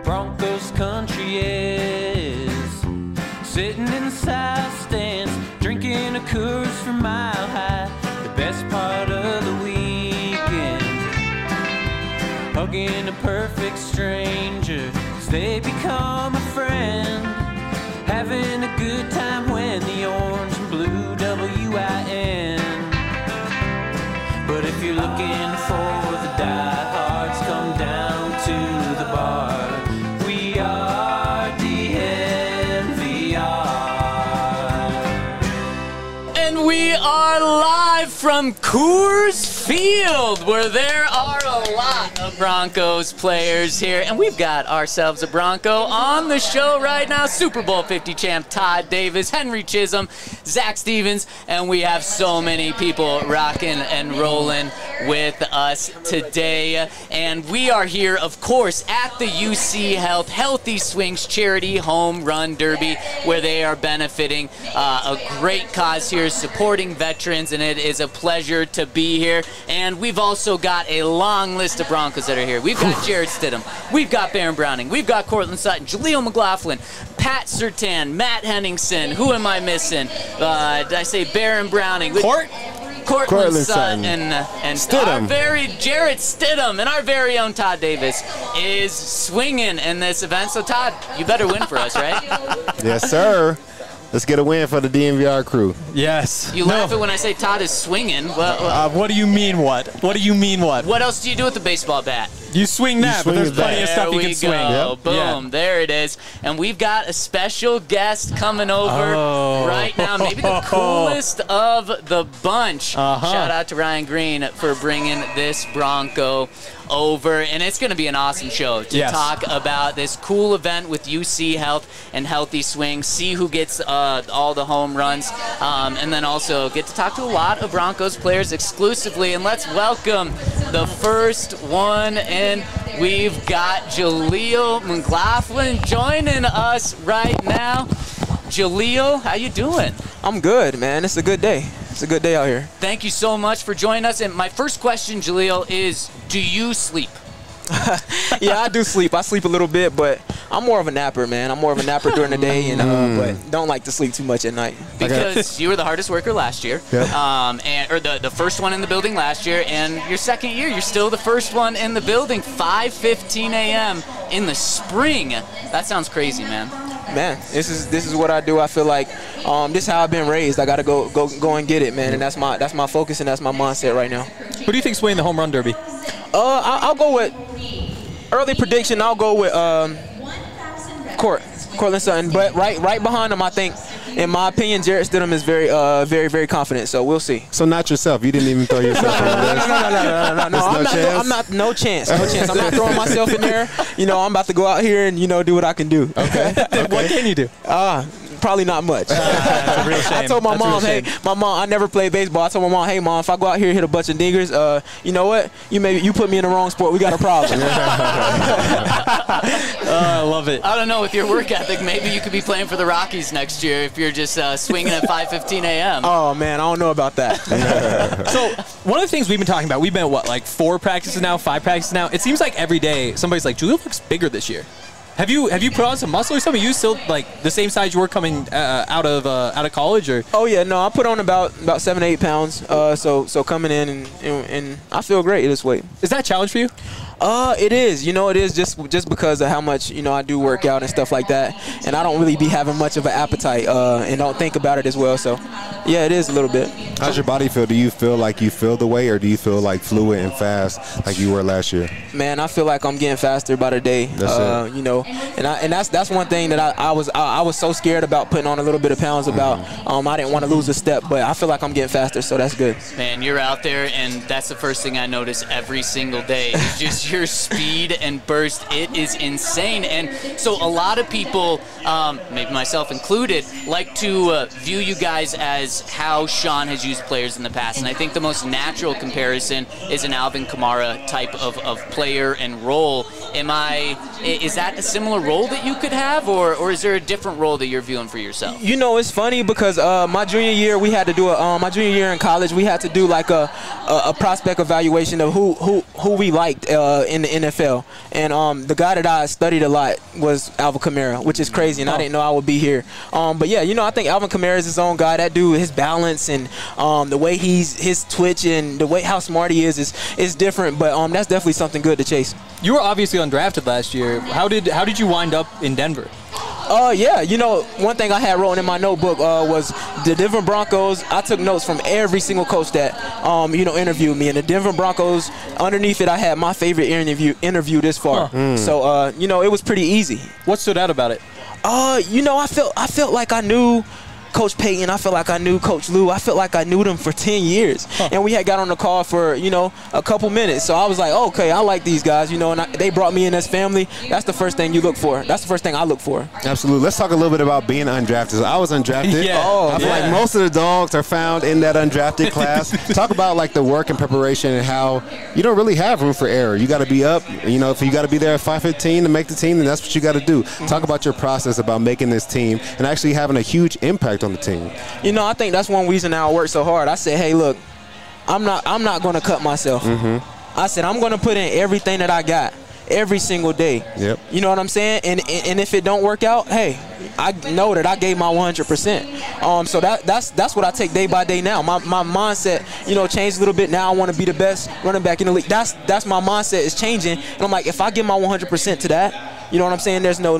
Broncos country is. Sitting in the south stands, drinking a Coors from Mile High. The best part of the weekend, hugging a perfect stranger as they become a friend. Having a good time when the orange and blue WIN. But if you're looking for the diehards, come down to the bar. We are DNVR. And we are live from Coors Field, where there are a lot of Broncos players here. And we've got ourselves a Bronco on the show right now. Super Bowl 50 champ Todd Davis, Henry Chisholm, Zach Stevens, and we have so many people rocking and rolling with us today. And we are here, of course, at the UC Health Healthy Swings Charity Home Run Derby, where they are benefiting a great cause here, supporting veterans, and it is a pleasure to be here. And we've also got a long list of Broncos that are here. We've got Jarrett Stidham, we've got Baron Browning, we've got Cortland Sutton, Jaleel McLaughlin, Pat Surtain, Matt Henningsen. Who am I missing? Did I say Baron Browning? Cortland Sutton and our very Jarrett Stidham and our very own Todd Davis is swinging in this event. So Todd, you better win for us, right? Yes, sir. Let's get a win for the DNVR crew. Yes. You laugh at when I say Todd is swinging. What do you mean what? What do you mean what? What else do you do with the baseball bat? You swing that, but there's plenty of stuff you can swing. Yep. Boom, there it is. And we've got a special guest coming over right now. Maybe the coolest of the bunch. Shout out to Ryan Green for bringing this Bronco over. And it's going to be an awesome show to talk about this cool event with UC Health and Healthy Swing, see who gets all the home runs, and then also get to talk to a lot of Broncos players exclusively. And let's welcome the first one in. We've got Jaleel McLaughlin joining us right now. Jaleel, how you doing? I'm good, man. It's a good day. It's a good day out here. Thank you so much for joining us. And my first question, Jaleel, is do you sleep? Yeah, I do sleep. I sleep a little bit, but I'm more of a napper, man. I'm more of a napper during the day, and but don't like to sleep too much at night. Because you were the hardest worker last year, or the first one in the building last year, and your second year, you're still the first one in the building. 5:15 a.m. in the spring. That sounds crazy, man. Man, this is what I do. I feel like this is how I've been raised. I gotta go and get it, man, and that's my focus and that's my mindset right now. Who do you think's winning the home run derby? I'll go with early prediction. I'll go with Cortland Sutton, but right behind him, I think, in my opinion, Jarrett Stidham is very, very confident. So we'll see. So not yourself. You didn't even throw yourself in there. No. No chance. I'm not throwing myself in there. You know, I'm about to go out here and do what I can do. Okay. What can you do? Probably not much. That's a real shame. I told my mom, hey, I never played baseball. I told my mom, hey, Mom, if I go out here and hit a bunch of dingers, you know what? You put me in the wrong sport. We got a problem. I love it. I don't know, with your work ethic, maybe you could be playing for the Rockies next year if you're just swinging at 5:15 a.m. Oh, man, I don't know about that. So one of the things we've been talking about, we've been at 4 practices now, 5 practices now. It seems like every day somebody's like, Jaleel looks bigger this year. Have you put on some muscle or something? Are you still like the same size you were coming out of college, or? Oh yeah, no, I put on about 7-8 pounds. So coming in and I feel great this weight. Is that a challenge for you? It is. It is just because of how much I do work out and stuff like that, and I don't really be having much of an appetite and don't think about it as well. So yeah, it is a little bit. How's your body feel? Do you feel like you feel the way, or do you feel like fluid and fast like you were last year? Man, I feel like I'm getting faster by the day. That's it. And that's one thing that I was so scared about putting on a little bit of pounds about. I didn't want to lose a step, but I feel like I'm getting faster, so that's good. Man, you're out there, and that's the first thing I notice every single day is just your speed and burst. It is insane. And so a lot of people, maybe myself included, like to view you guys as how Sean has used players in the past. And I think the most natural comparison is an Alvin Kamara type of player and role. Is that a similar role that you could have, or is there a different role that you're viewing for yourself? It's funny because my junior year we had to do my junior year in college we had to do like a prospect evaluation of who who we liked in the NFL. And the guy that I studied a lot was Alvin Kamara, which is crazy, and I didn't know I would be here. But yeah, I think Alvin Kamara is his own guy. That dude, his balance and the way his twitch and the way how smart he is different. But that's definitely something good to chase. You were obviously undrafted last year. How did you wind up in Denver? Yeah, one thing I had written in my notebook was the Denver Broncos. I took notes from every single coach that, interviewed me. And the Denver Broncos, underneath it, I had my favorite interview this far. So, it was pretty easy. What stood out about it? I felt like I knew Coach Payton. I felt like I knew Coach Lou. I felt like I knew them for 10 years. And we had got on the call for, a couple minutes. So I was like, okay, I like these guys, and they brought me in as family. That's the first thing you look for. That's the first thing I look for. Absolutely. Let's talk a little bit about being undrafted. So I was undrafted. I feel like most of the dogs are found in that undrafted class. Talk about like the work and preparation and how you don't really have room for error. You got to be up. If you got to be there at 5:15 to make the team, then that's what you got to do. Talk about your process about making this team and actually having a huge impact on the team. I think that's one reason I work so hard. I said, hey, look, I'm not going to cut myself. I said, I'm going to put in everything that I got every single day. Yep. You know what I'm saying? And if it don't work out, hey, I know that I gave my 100%. So that's what I take day by day now. My mindset, changed a little bit. Now I want to be the best running back in the league. That's my mindset is changing. And I'm like, if I give my 100% to that, you know what I'm saying? There's no.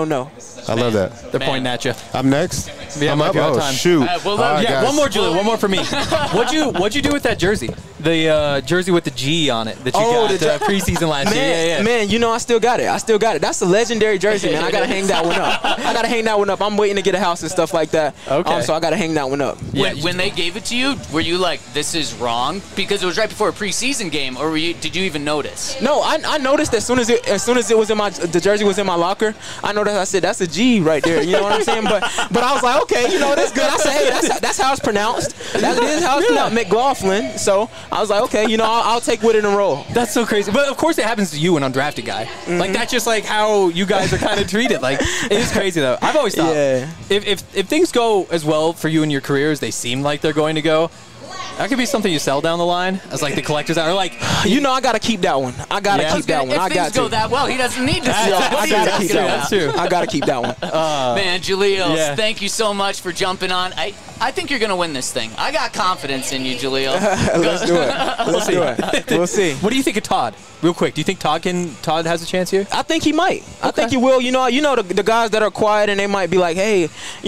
I love that. They're pointing at you. I'm next. Yeah, I'm up. Oh, time. Shoot. Yeah, one more, Julie. One more for me. What'd you do with that jersey? The jersey with the G on it that you got preseason last year. Man, I still got it. That's a legendary jersey, man. I gotta hang that one up. I'm waiting to get a house and stuff like that. Okay. So I gotta hang that one up. When they gave it to you, were you like, this is wrong? Because it was right before a preseason game, or did you even notice? No, I noticed as soon as it was in the jersey was in my locker. I noticed. I said, that's a G right there. You know what I'm saying? But I was like, okay, that's good. I said, hey, that's how it's pronounced. That is how it's pronounced, McLaughlin. So I was like, okay, I'll take with it and roll. That's so crazy. But of course it happens to you, an undrafted guy. Like that's just like how you guys are kind of treated. Like it is crazy though. I've always thought if things go as well for you in your career as they seem like they're going to go, that could be something you sell down the line as like the collectors out. Or like, I gotta keep that one. I gotta keep that one. If things go that well, he doesn't need to sell. I gotta keep that one. That's true. I gotta keep that one. Man, Jaleel, thank you so much for jumping on. I think you're gonna win this thing. I got confidence in you, Jaleel. Let's do it. We'll see. What do you think of Todd? Real quick, do you think Todd has a chance here? I think he might. I think he will. The guys that are quiet and they might be like, hey,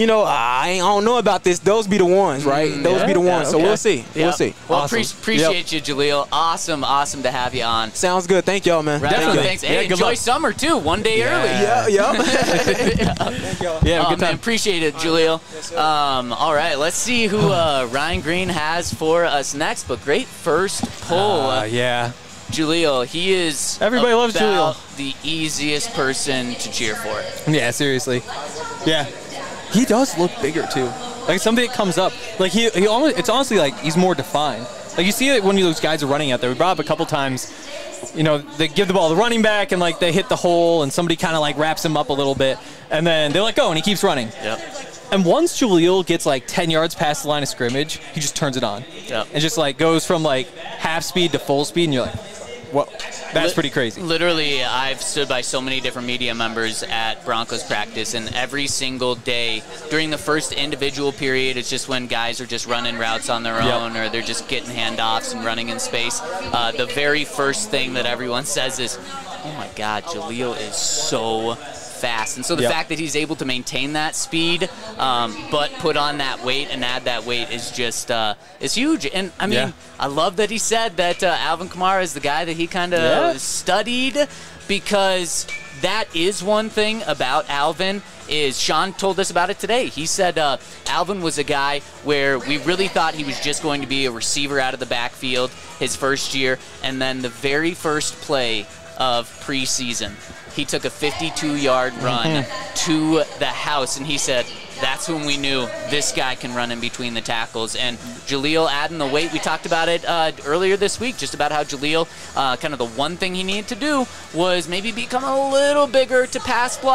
I don't know about this. Those be the ones, right? Those be the ones. So we'll see. We'll see. Well, awesome. Appreciate you, Jaleel. Awesome to have you on. Sounds good. Thank y'all, man. Definitely. Thanks. Hey, enjoy summer too. One day early. Yeah. Thank y'all. Yeah, good time. Man, appreciate it, Jaleel. All right, let's see who Ryan Green has for us next. But great first pull. Jaleel, he is everybody loves Jaleel. The easiest person to cheer for. Yeah, seriously. Yeah, he does look bigger too. Like something that comes up, like he almost, it's honestly like he's more defined. Like you see it when those guys are running out there. We brought up a couple times, they give the ball to the running back and like they hit the hole and somebody kind of like wraps him up a little bit and then they let go and he keeps running. Yep. And once Jaleel gets like 10 yards past the line of scrimmage, he just turns it on. Yep. And just like goes from like half speed to full speed and you're like, well, that's pretty crazy. Literally, I've stood by so many different media members at Broncos practice, and every single day during the first individual period, it's just when guys are just running routes on their own or they're just getting handoffs and running in space. The very first thing that everyone says is, oh my God, Jaleel is so fast. And so the fact that he's able to maintain that speed, but put on that weight and add that weight is just is huge. And I mean, I love that he said that Alvin Kamara is the guy that he kind of studied, because that is one thing about Alvin. Is Sean told us about it today. He said Alvin was a guy where we really thought he was just going to be a receiver out of the backfield his first year, and then the very first play of preseason, he took a 52-yard run to the house, and he said, that's when we knew this guy can run in between the tackles. And Jaleel adding the weight, we talked about it earlier this week, just about how Jaleel, kind of the one thing he needed to do was maybe become a little bigger to pass block.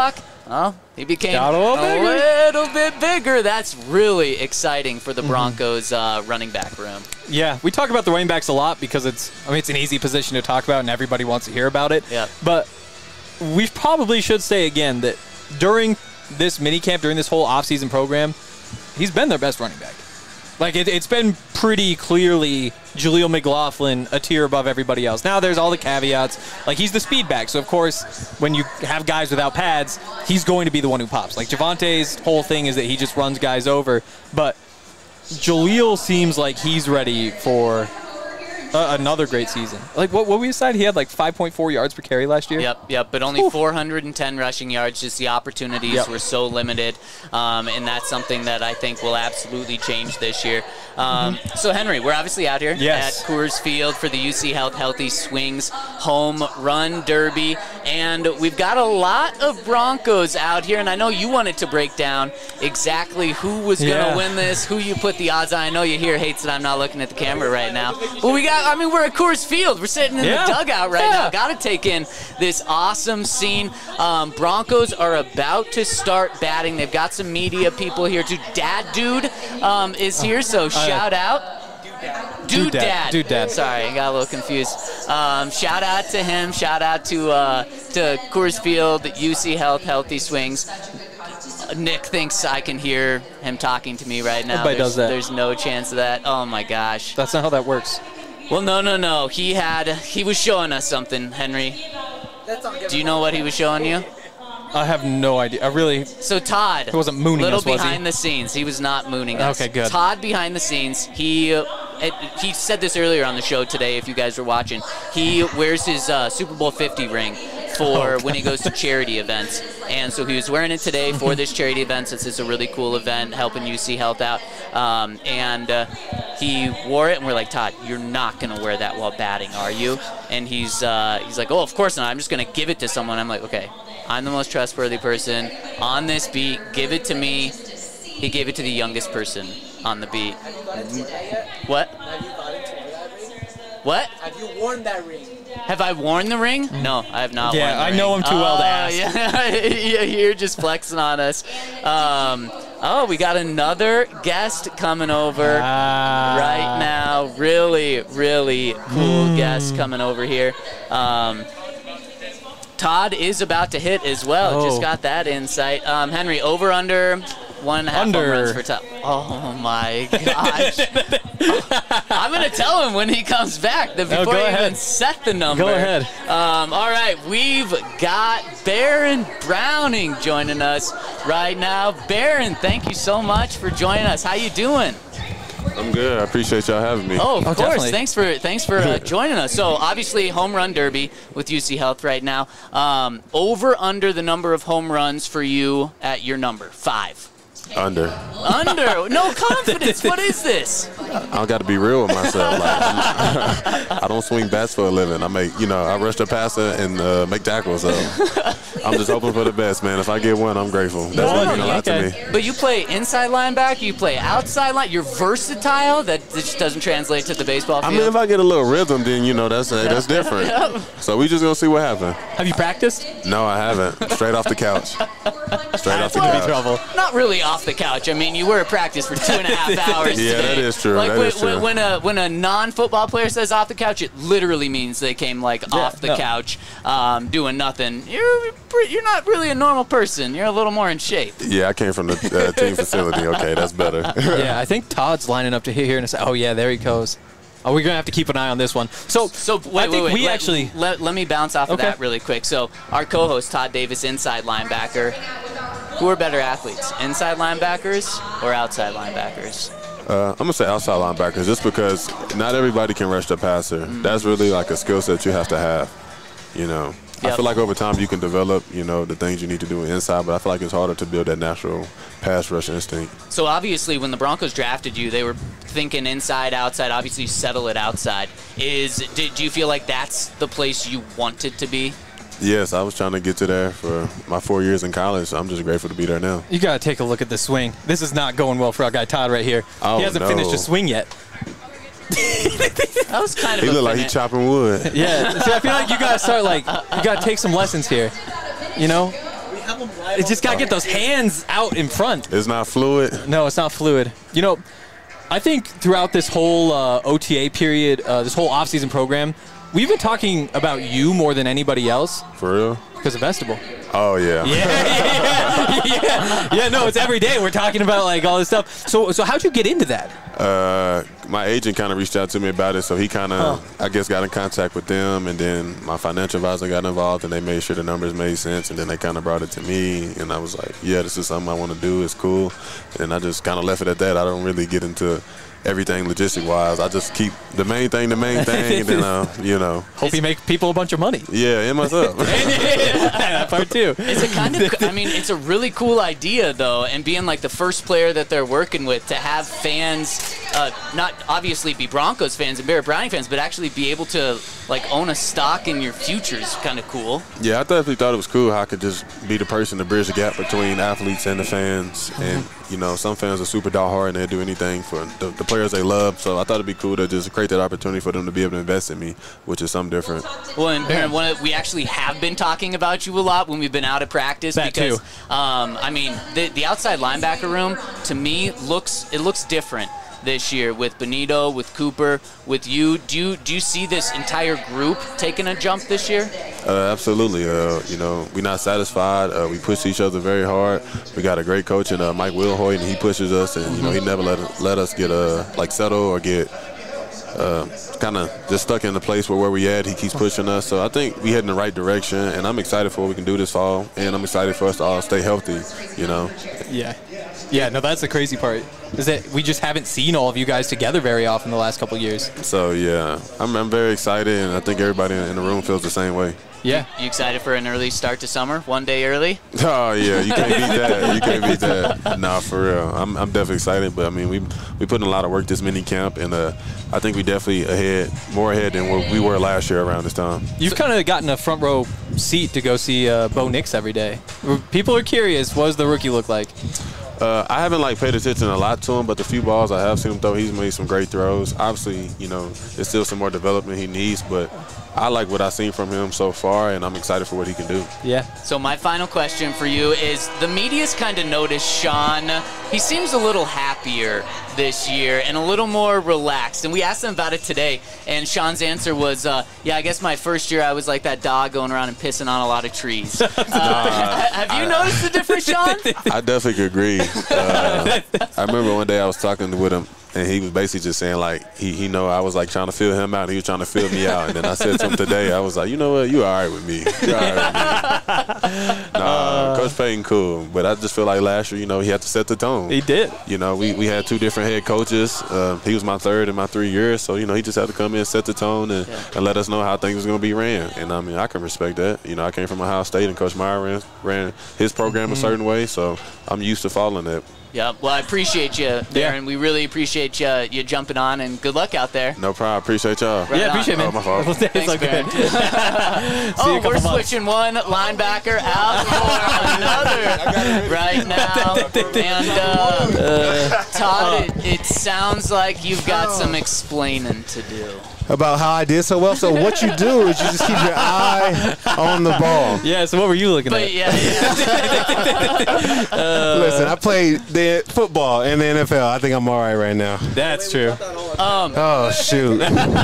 Oh, he became Got a little bit bigger. That's really exciting for the Broncos running back room. Yeah, we talk about the running backs a lot because it's an easy position to talk about and everybody wants to hear about it. Yeah. But we probably should say again that during this minicamp, during this whole offseason program, he's been their best running back. Like, it's been pretty clearly Jaleel McLaughlin a tier above everybody else. Now there's all the caveats. Like, he's the speed back, so of course, when you have guys without pads, he's going to be the one who pops. Like, Javonte's whole thing is that he just runs guys over. But Jaleel seems like he's ready for another great season. Like, what we decided? He had like 5.4 yards per carry last year? Yep, but only 410 rushing yards. Just the opportunities were so limited, and that's something that I think will absolutely change this year. So, Henry, we're obviously out here at Coors Field for the UC Health Healthy Swings Home Run Derby, and we've got a lot of Broncos out here, and I know you wanted to break down exactly who was going to win this, who you put the odds on. I know you here hates that I'm not looking at the camera right now, but we're at Coors Field. We're sitting in the dugout right now. Got to take in this awesome scene. Broncos are about to start batting. They've got some media people here too. Dad Dude is here, so shout out. Dude Dad. Sorry, I got a little confused. Shout out to him. Shout out to Coors Field, UC Health Healthy Swings. Nick thinks I can hear him talking to me right now. Everybody does that. There's no chance of that. Oh my gosh. That's not how that works. Well, no. He was showing us something, Henry. Do you know what he was showing you? I have no idea. So Todd, he wasn't mooning us, was he? Little behind the scenes. He was not mooning us. Okay, good. Todd behind the scenes. He said this earlier on the show today. If you guys were watching, he wears his Super Bowl 50 ring for when he goes to charity events, and so he was wearing it today for this charity event since it's a really cool event helping UC Health out. And he wore it, and we're like, Todd, you're not gonna wear that while batting, are you? And he's like, oh, of course not. I'm just gonna give it to someone. I'm like, okay. I'm the most trustworthy person on this beat. Give it to me. He gave it to the youngest person on the beat. What? What? Have you worn that ring? Have I worn the ring? No, I have not worn the ring. I know him too well to ask. Yeah, you're just flexing on us. We got another guest coming over right now. Really, really cool guest coming over here. Todd is about to hit as well. Just got that insight. Henry, over under 1.5 home runs for Todd. Oh my gosh! I'm gonna tell him when he comes back before he even set the number. Go ahead. All right, we've got Baron Browning joining us right now. Baron, thank you so much for joining us. How you doing? I'm good. I appreciate y'all having me. Oh, of course. Definitely. Thanks for joining us. So, obviously, home run derby with UC Health right now. Over under the number of home runs for you at your number 5. Under. No confidence. What is this? I got to be real with myself. I don't swing bats for a living. I rush the passer and make tackles. So I'm just hoping for the best, man. If I get one, I'm grateful. That's what means a lot to me. But you play inside linebacker. You play outside line. You're versatile. That just doesn't translate to the baseball field. I mean, if I get a little rhythm, then that's different. So we just gonna see what happens. Have you practiced? No, I haven't. Straight off the couch. Straight off the couch. Trouble. Not really off the couch. I mean, you were at practice for 2.5 hours. Yeah, today. that is true. When a non-football player says off the couch, it literally means they came off the couch, doing nothing. You're not really a normal person. You're a little more in shape. Yeah, I came from the team facility. Okay, that's better. Yeah, I think Todd's lining up to hit here and say, oh yeah, there he goes. Oh, we're gonna have to keep an eye on this one. So wait. Let me bounce off of that really quick. So our co-host Todd Davis, inside linebacker. Who are better athletes, inside linebackers or outside linebackers? I'm going to say outside linebackers just because not everybody can rush the passer. That's really like a skill set you have to have, I feel like over time you can develop, the things you need to do inside, but I feel like it's harder to build that natural pass rush instinct. So obviously when the Broncos drafted you, they were thinking inside, outside, obviously settle it outside. Do you feel like that's the place you wanted to be? Yes, I was trying to get to there for my 4 years in college. So I'm just grateful to be there now. You got to take a look at the swing. This is not going well for our guy Todd right here. He hasn't finished a swing yet. That was kind of. He looked like he's chopping wood. Yeah. So I feel like you got to start you got to take some lessons here. It's just got to get those hands out in front. It's not fluid. No, it's not fluid. You know, I think throughout this whole OTA period, this whole off-season program, we've been talking about you more than anybody else. For real? Because of Vegetable. Oh, yeah. Yeah, no, it's every day. We're talking about, like, all this stuff. So how'd you get into that? My agent kind of reached out to me about it, so he kind of, I guess, got in contact with them, and then my financial advisor got involved, and they made sure the numbers made sense, and then they kind of brought it to me, and I was like, yeah, this is something I want to do. It's cool. And I just kind of left it at that. I don't really get into everything logistic-wise. I just keep the main thing, and then, you know. Hope you make people a bunch of money. Yeah, and myself. That part too. It's a kind of, I mean, it's a really cool idea, though, and being like the first player that they're working with to have fans, not obviously be Broncos fans and Barrett Browning fans, but actually be able to, like, own a stock in your future is kind of cool. Yeah, I definitely thought it was cool how I could just be the person to bridge the gap between athletes and the fans. And, you know, some fans are super diehard and they'll do anything for the players they love. So I thought it'd be cool to just create that opportunity for them to be able to invest in me, which is something different. Well, and Baron, we actually have been talking about you a lot when we've been out at practice. That because, too. I mean, the outside linebacker room, to me, looks different this year with Benito, with Cooper, with you. Do you see this entire group taking a jump this year? Absolutely. You know, we're not satisfied. We push each other very hard. We got a great coach in Mike Wilhoit, and he pushes us, and you know, he never let us get like settle or get kind of just stuck in the place where we at. He keeps pushing us. So I think we head in the right direction, and I'm excited for what we can do this fall, and I'm excited for us to all stay healthy, you know. Yeah, no, that's the crazy part, is that we just haven't seen all of you guys together very often the last couple of years. So, yeah, I'm very excited, and I think everybody in the room feels the same way. Yeah. You excited for an early start to summer, one day early? Oh, yeah, you can't beat that. You can't beat that. Nah, for real. I'm definitely excited, but, I mean, we put in a lot of work this mini camp, and I think we definitely more ahead than where we were last year around this time. You've kind of gotten a front row seat to go see Bo Nix every day. People are curious, what does the rookie look like? I haven't paid attention a lot to him, but the few balls I have seen him throw, he's made some great throws. Obviously, you know, there's still some more development he needs, but I like what I've seen from him so far, and I'm excited for what he can do. Yeah. So my final question for you is, the media's kind of noticed Sean. He seems a little happier this year and a little more relaxed. And we asked him about it today, and Sean's answer was, yeah, I guess my first year I was like that dog going around and pissing on a lot of trees. Have you noticed the difference, Sean? I definitely could agree. I remember one day I was talking with him, and he was basically just saying, like, he know I was, like, trying to fill him out, and he was trying to fill me out. And then I said to him today, I was like, you know what, you all right with me. You're all right with me. Nah, Coach Payton cool. But I just feel like last year, you know, he had to set the tone. He did. You know, we had two different head coaches. He was my third in my 3 years. So, you know, he just had to come in, set the tone, and let us know how things was going to be ran. And, I mean, I can respect that. You know, I came from Ohio State, and Coach Meyer ran his program a certain way. So I'm used to following that. Yeah, well, I appreciate you, Darren. We really appreciate you jumping on, and good luck out there. No problem. Appreciate y'all. Right appreciate it, man. Oh, my fault. Thanks, Barron. We're switching one linebacker out for another right now. And Todd, it sounds like you've got some explaining to do. About how I did so well. So what you do is you just keep your eye on the ball. Yeah, so what were you looking at? Yeah. Listen, I played the football in the NFL. I think I'm all right now. That's true. Oh, shoot.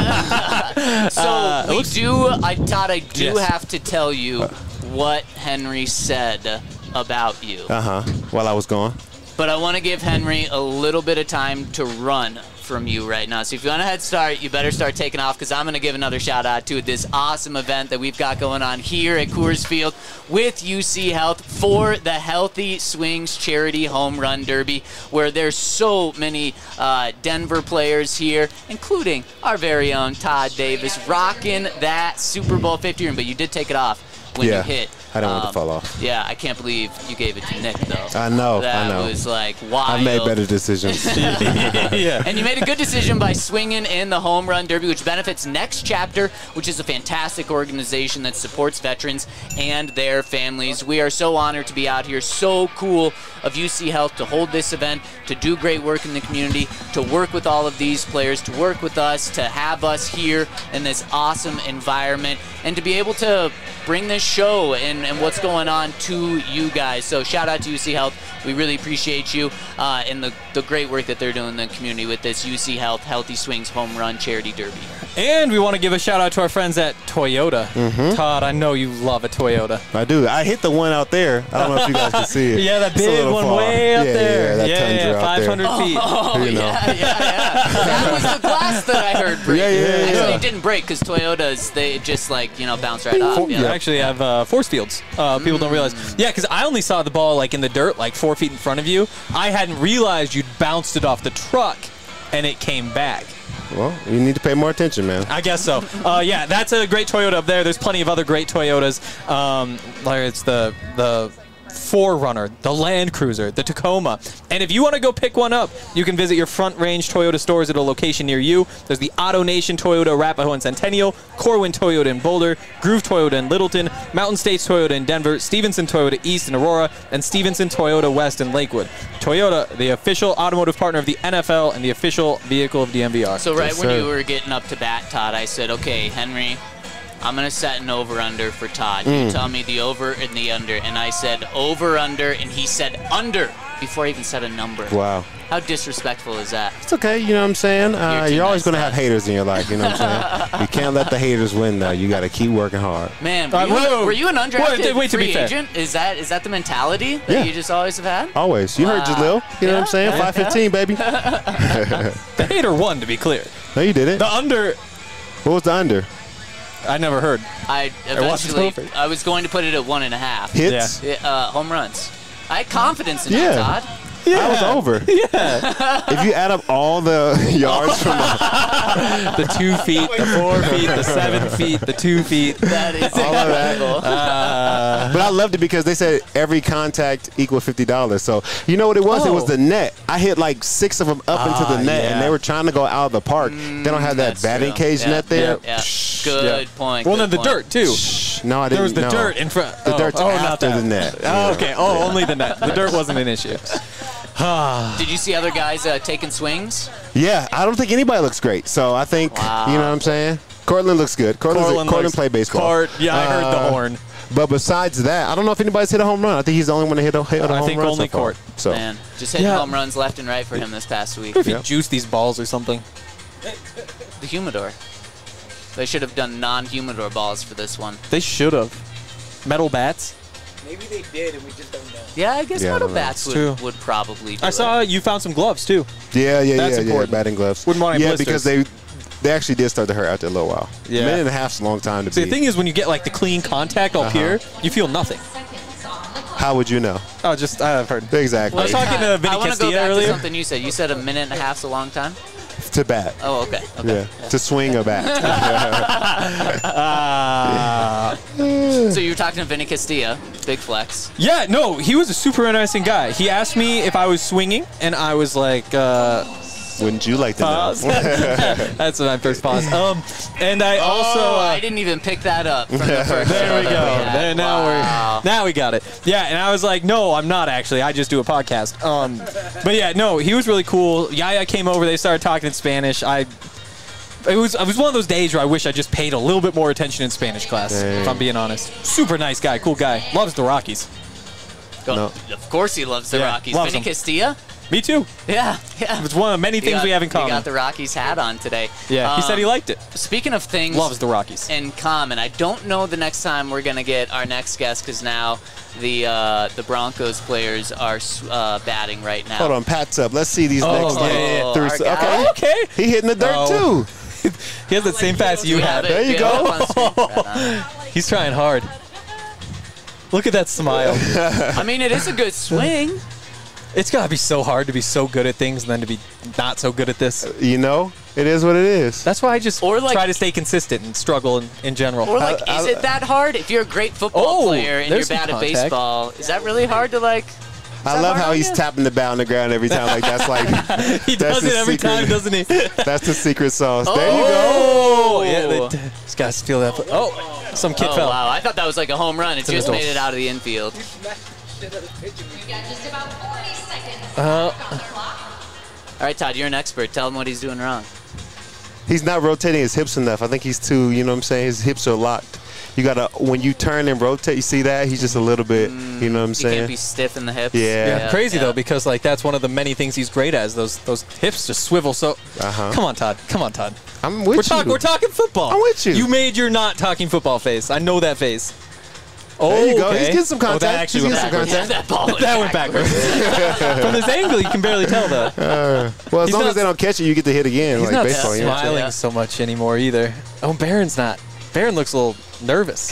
So Todd, I do Yes. have to tell you what Henry said about you. While I was gone. But I want to give Henry a little bit of time to run from you right now. So if you want a head start, you better start taking off, because I'm going to give another shout out to this awesome event that we've got going on here at Coors Field with UC Health for the Healthy Swings Charity Home Run Derby, where there's so many Denver players here, including our very own Todd Davis, rocking that Super Bowl 50 ring. But you did take it off when you hit. I don't want to fall off. Yeah, I can't believe you gave it to Nick, though. I know. That was like wild. I've made better decisions. Yeah. And you made a good decision by swinging in the Home Run Derby, which benefits Next Chapter, which is a fantastic organization that supports veterans and their families. We are so honored to be out here. So cool of UC Health to hold this event, to do great work in the community, to work with all of these players, to work with us, to have us here in this awesome environment, and to be able to bring this show and what's going on to you guys. So shout out to UC Health. We really appreciate you and the great work that they're doing in the community with this UC Health Healthy Swings Home Run Charity Derby. And we want to give a shout out to our friends at Toyota. Todd, I know you love a Toyota. I do. I hit the one out there. I don't know if you guys can see it. Yeah, that It's a big little one far. way up there. Yeah, that Tundra out there. 500 feet. Oh, You know. yeah. That was the glass that I heard break. Yeah. Actually, it didn't break because Toyotas, they just bounce right off. You actually have force fields. People don't realize. Yeah, because I only saw the ball like in the dirt, like 4 feet in front of you. I hadn't realized you'd bounced it off the truck, and it came back. Well, you need to pay more attention, man. I guess so. Yeah, that's a great Toyota up there. There's plenty of other great Toyotas. Like it's the 4Runner, the Land Cruiser, the Tacoma. And if you want to go pick one up, you can visit your Front Range Toyota stores at a location near you. There's the Auto Nation Toyota Arapahoe and Centennial, Corwin Toyota in Boulder, Groove Toyota in Littleton, Mountain States Toyota in Denver, Stevenson Toyota East in Aurora, and Stevenson Toyota West in Lakewood. Toyota, the official automotive partner of the NFL and the official vehicle of DMVR. So right when you were getting up to bat, Todd, I said, okay, Henry, I'm going to set an over-under for Todd. You tell me the over and the under. And I said over-under, and he said under before I even said a number. Wow. How disrespectful is that? It's okay, you know what I'm saying? You're always nice, going to Todd. have haters in your life, you know what I'm saying? You can't let the haters win, though. You got to keep working hard. Man, whoa. were you an undrafted Wait, to be free fair. agent? Is that the mentality that Yeah. you just always have had? Always. You heard Jalil. You know what I'm saying? 5'15", baby. The hater won, to be clear. No, you didn't. The under, What was the under? I never heard. I wasn't eventually, perfect. I was going to put it at 1.5. Hits? Home runs. I had confidence in Yeah. that, Todd. I was over. Yeah. If you add up all the yards from The 2 feet, the 4 feet, the 7 feet, the 2 feet. That is all of that. incredible. But I loved it because they said every contact equal $50. So you know what it was? It was the net. I hit like 6 of them up into the net, and they were trying to go out of the park. They don't have that That's batting true. cage Yeah. net there. Yeah. Good point. Well, good then the point. dirt, too. No, I didn't. There was the no. dirt in front. The dirt's not after that. the net. Oh, okay. Oh, only the net. The dirt wasn't an issue. Did you see other guys taking swings? Yeah, I don't think anybody looks great. So I think, you know what I'm saying? Cortland looks good. Cortland played baseball. Yeah, I heard the horn. But besides that, I don't know if anybody's hit a home run. I think he's the only one to hit a home run. I think only so far. Court. So Man, just hitting home runs left and right for him this past week. If you juice these balls or something. The humidor. They should have done non-humidor balls for this one. They should have. Metal bats. Maybe they did, and we just don't know. Yeah, I guess Yeah, I metal don't know. bats True. would probably do I saw you found some gloves, too. yeah, That's important. batting gloves. Wouldn't want any Yeah, blisters. because they actually did start to hurt after a little while. Yeah. A minute and a half's a long time to See, be. the thing is, when you get like the clean contact up here, you feel nothing. How would you know? Oh, just I've heard. Exactly. I was talking to Vinny I want to go Castilla back earlier. to something you said. You said a minute and a half's a long time? To bat. Oh, okay. Yeah. To swing a bat. So you were talking to Vinny Castilla, big flex. Yeah, no, he was a super interesting guy. He asked me if I was swinging, and I was like, Wouldn't you like to know? pause. That's when I first paused. And I also. I didn't even pick that up from the first There we show go. that we had. Wow. Now we got it. Yeah, and I was like, no, I'm not actually. I just do a podcast. But yeah, no, he was really cool. Yaya came over. They started talking in Spanish. It was one of those days where I wish I just paid a little bit more attention in Spanish class, if I'm being honest. Super nice guy, cool guy. Loves the Rockies. No. Of course he loves the Yeah, Rockies. loves Vinny them. Castilla? Me too. Yeah. It's one of many things we have in He common. got the Rockies hat on today. Yeah, he said he liked it. Speaking of things Loves the Rockies. in common, I don't know the next time we're going to get our next guest because now the Broncos players are batting right now. Hold on, Pat's up. Let's see these next yeah. three. Our guy. Okay. Okay. He hitting the dirt Oh. too. He has that same pass you have had. it. There you Do go. have it up on screen? Right on. He's trying hard. Look at that smile. I mean, it is a good swing. It's got to be so hard to be so good at things and then to be not so good at this. You know, it is what it is. That's why I just Or like- try to stay consistent and struggle in general. Or like, is it that hard? If you're a great football Oh, player and you're there's some bad at contact. baseball, is that really hard to like? I love how he's Yeah. tapping the bat on the ground every time. Like that's like He does the it every secret. time, doesn't he? That's the secret sauce. There you go. Oh, yeah. These guys feel that. Oh, some kid Oh fell. wow! I thought that was like a home run. It an just adult. made it out of the infield. We've got just about 40 seconds All right, Todd, you're an expert. Tell him what he's doing wrong. He's not rotating his hips enough. I think he's too. You know what I'm saying? His hips are locked. You gotta when you turn and rotate, you see that he's just a little bit. You know what I'm saying? He can't be stiff in the hips. Yeah. Crazy though, because like that's one of the many things he's great at. Is those hips just swivel. So come on, Todd. I'm with you. We're talking football. I'm with you. You made your not talking football face. I know that face. Oh, there you go. okay. He's getting some contact. Oh, that actually went backwards. That went backwards. From this angle, you can barely tell, though. Well, as long as they don't catch it, you get to hit again. He's like not baseball, smiling so much anymore either. Oh, Barron's not. Barron looks a little nervous.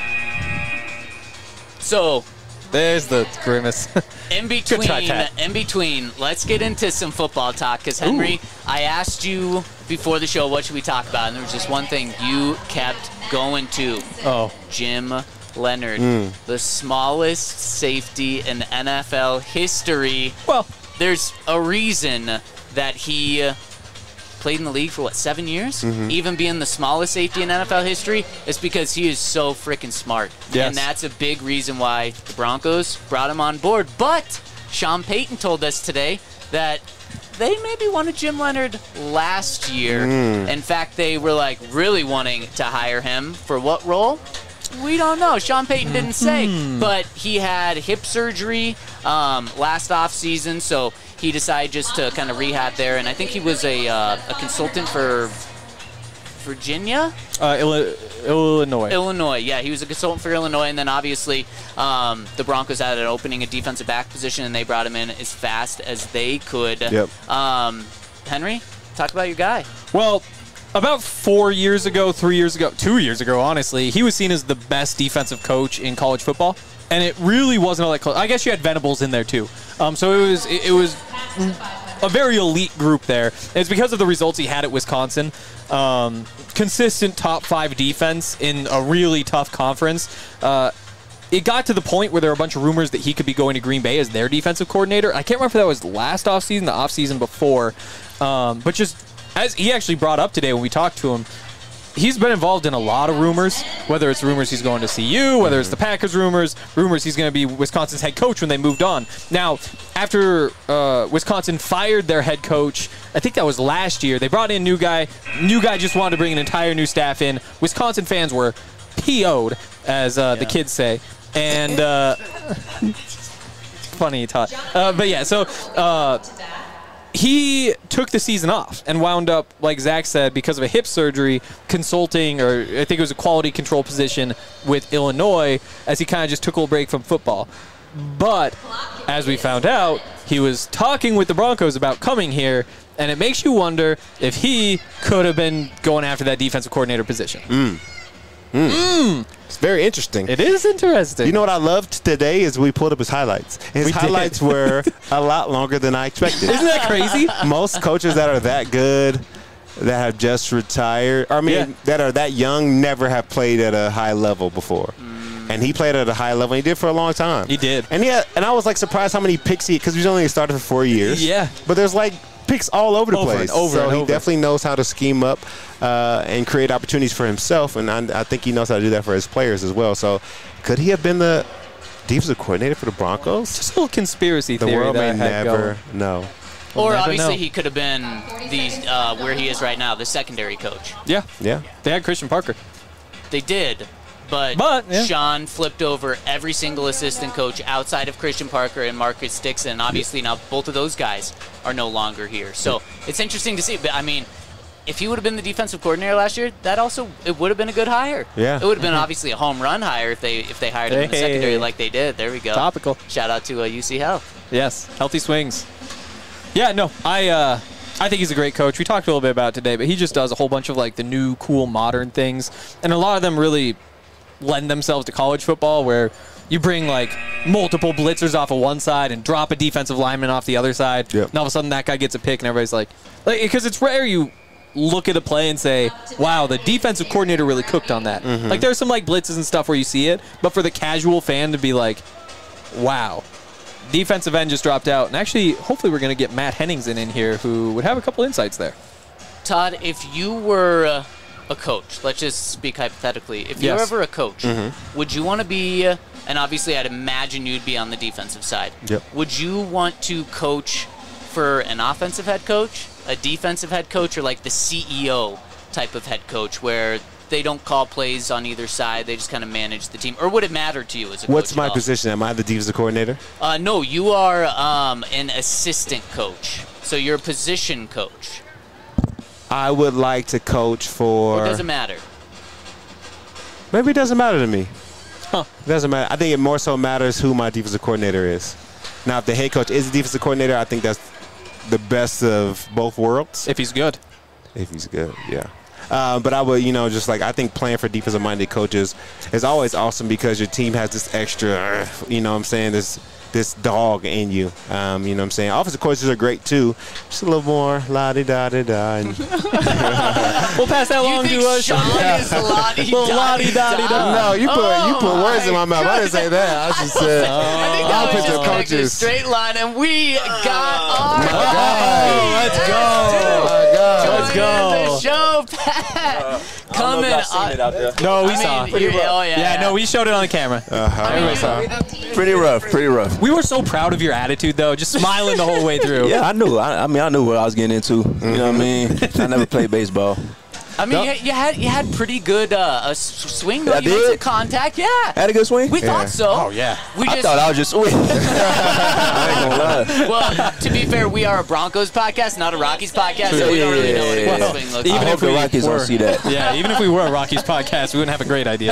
So there's the grimace. In between, let's get into some football talk. Because, Henry, I asked you before the show, what should we talk about? And there was just one thing you kept going to. Oh. Jim Leonard, the smallest safety in NFL history. Well, there's a reason that he played in the league for, 7 years? Even being the smallest safety in NFL history is because he is so freaking smart. Yes. And that's a big reason why the Broncos brought him on board. But Sean Payton told us today that they maybe wanted Jim Leonard last year. In fact, they were really wanting to hire him for what role? We don't know. Sean Payton didn't say, but he had hip surgery last offseason, so he decided just to kind of rehab there. And I think he was a consultant for Virginia? Illinois. Illinois, yeah. He was a consultant for Illinois, and then obviously the Broncos had an opening a defensive back position, and they brought him in as fast as they could. Yep. Henry, talk about your guy. Well, about 4 years ago, 3 years ago, 2 years ago, honestly, he was seen as the best defensive coach in college football, and it really wasn't all that close. I guess you had Venables in there too, so it was a very elite group there. It's because of the results he had at Wisconsin. Consistent top 5 defense in a really tough conference. It got to the point where there were a bunch of rumors that he could be going to Green Bay as their defensive coordinator. I can't remember if that was last offseason, the offseason before, but just as he actually brought up today when we talked to him, he's been involved in a lot of rumors, whether it's rumors he's going to CU, whether it's the Packers rumors he's going to be Wisconsin's head coach when they moved on. Now, after Wisconsin fired their head coach, I think that was last year, they brought in new guy. New guy just wanted to bring an entire new staff in. Wisconsin fans were PO'd, as the kids say. And funny, Todd. But yeah, so he took the season off and wound up, like Zach said, because of a hip surgery, consulting, or I think it was a quality control position with Illinois, as he kind of just took a little break from football. But as we found out, he was talking with the Broncos about coming here, and it makes you wonder if he could have been going after that defensive coordinator position. It's very interesting. It is interesting. You know what I loved today is we pulled up his highlights. His highlights were a lot longer than I expected. Isn't that crazy? Most coaches that are that good, that have just retired, that are that young, never have played at a high level before. And he played at a high level, and he did for a long time. He did. And I was surprised how many picks because he's only started for 4 years. Yeah. But there's picks all over the place. So he definitely knows how to scheme up and create opportunities for himself, and I think he knows how to do that for his players as well. So could he have been the defensive coordinator for the Broncos? Just a little conspiracy theory. The world may never know. Or obviously he could have been where he is right now, the secondary coach. Yeah. Yeah. They had Christian Parker. They did. But Sean flipped over every single assistant coach outside of Christian Parker and Marcus Dixon. Obviously, now both of those guys are no longer here. So it's interesting to see. But, I mean, if he would have been the defensive coordinator last year, it would have been a good hire. Yeah. It would have been obviously a home run hire if they hired him in the secondary like they did. There we go. Topical. Shout out to UC Health. Yes, healthy swings. Yeah, no, I think he's a great coach. We talked a little bit about it today, but he just does a whole bunch of the new, cool, modern things. And a lot of them really lend themselves to college football, where you bring multiple blitzers off of one side and drop a defensive lineman off the other side. Yep. And all of a sudden that guy gets a pick and everybody's because it's rare you look at a play and say, wow, the defensive coordinator really cooked on that. There's some blitzes and stuff where you see it, but for the casual fan to be wow, defensive end just dropped out. And actually, hopefully we're going to get Matt Henningsen in here who would have a couple insights there. Todd, if you were a coach, let's just speak hypothetically. If you were ever a coach, would you want to be, and obviously I'd imagine you'd be on the defensive side. Yep. Would you want to coach for an offensive head coach, a defensive head coach, or the CEO type of head coach where they don't call plays on either side. They just kind of manage the team. Or would it matter to you as a coach? What's my position? Am I the defensive coordinator? No, you are an assistant coach. So you're a position coach. I would like to coach for. Or it doesn't matter. Maybe it doesn't matter to me. Huh. It doesn't matter. I think it more so matters who my defensive coordinator is. Now, if the head coach is the defensive coordinator, I think that's the best of both worlds. If he's good. If he's good, yeah. But I would, just like I think playing for defensive-minded coaches is always awesome because your team has this extra, this dog in you. You know what I'm saying? Offensive coaches are great too. Just a little more la-di-da-di-da. We'll pass that along to Sean is la-di-da-di-da. No, you put words in my mouth. I didn't say that. I just said I think that was just connected a straight line, and we got our Let's go. Let's go. The show, Pat. Coming up. No, we saw. Oh, yeah. Yeah, no, we showed it on camera. Everybody saw. Pretty rough. We were so proud of your attitude, though, just smiling the whole way through. Yeah, I knew. I knew what I was getting into. You know what I mean? I never played baseball. I mean, you had pretty good swing. Though. I You did? made some contact, yeah. Had a good swing? We thought so. Oh, yeah. I thought I was just swinging. I ain't gonna lie. Well, to be fair, we are a Broncos podcast, not a Rockies podcast, so we don't really know what a good swing looks Even like. if the Rockies don't see that. Yeah, even if we were a Rockies podcast, we wouldn't have a great idea.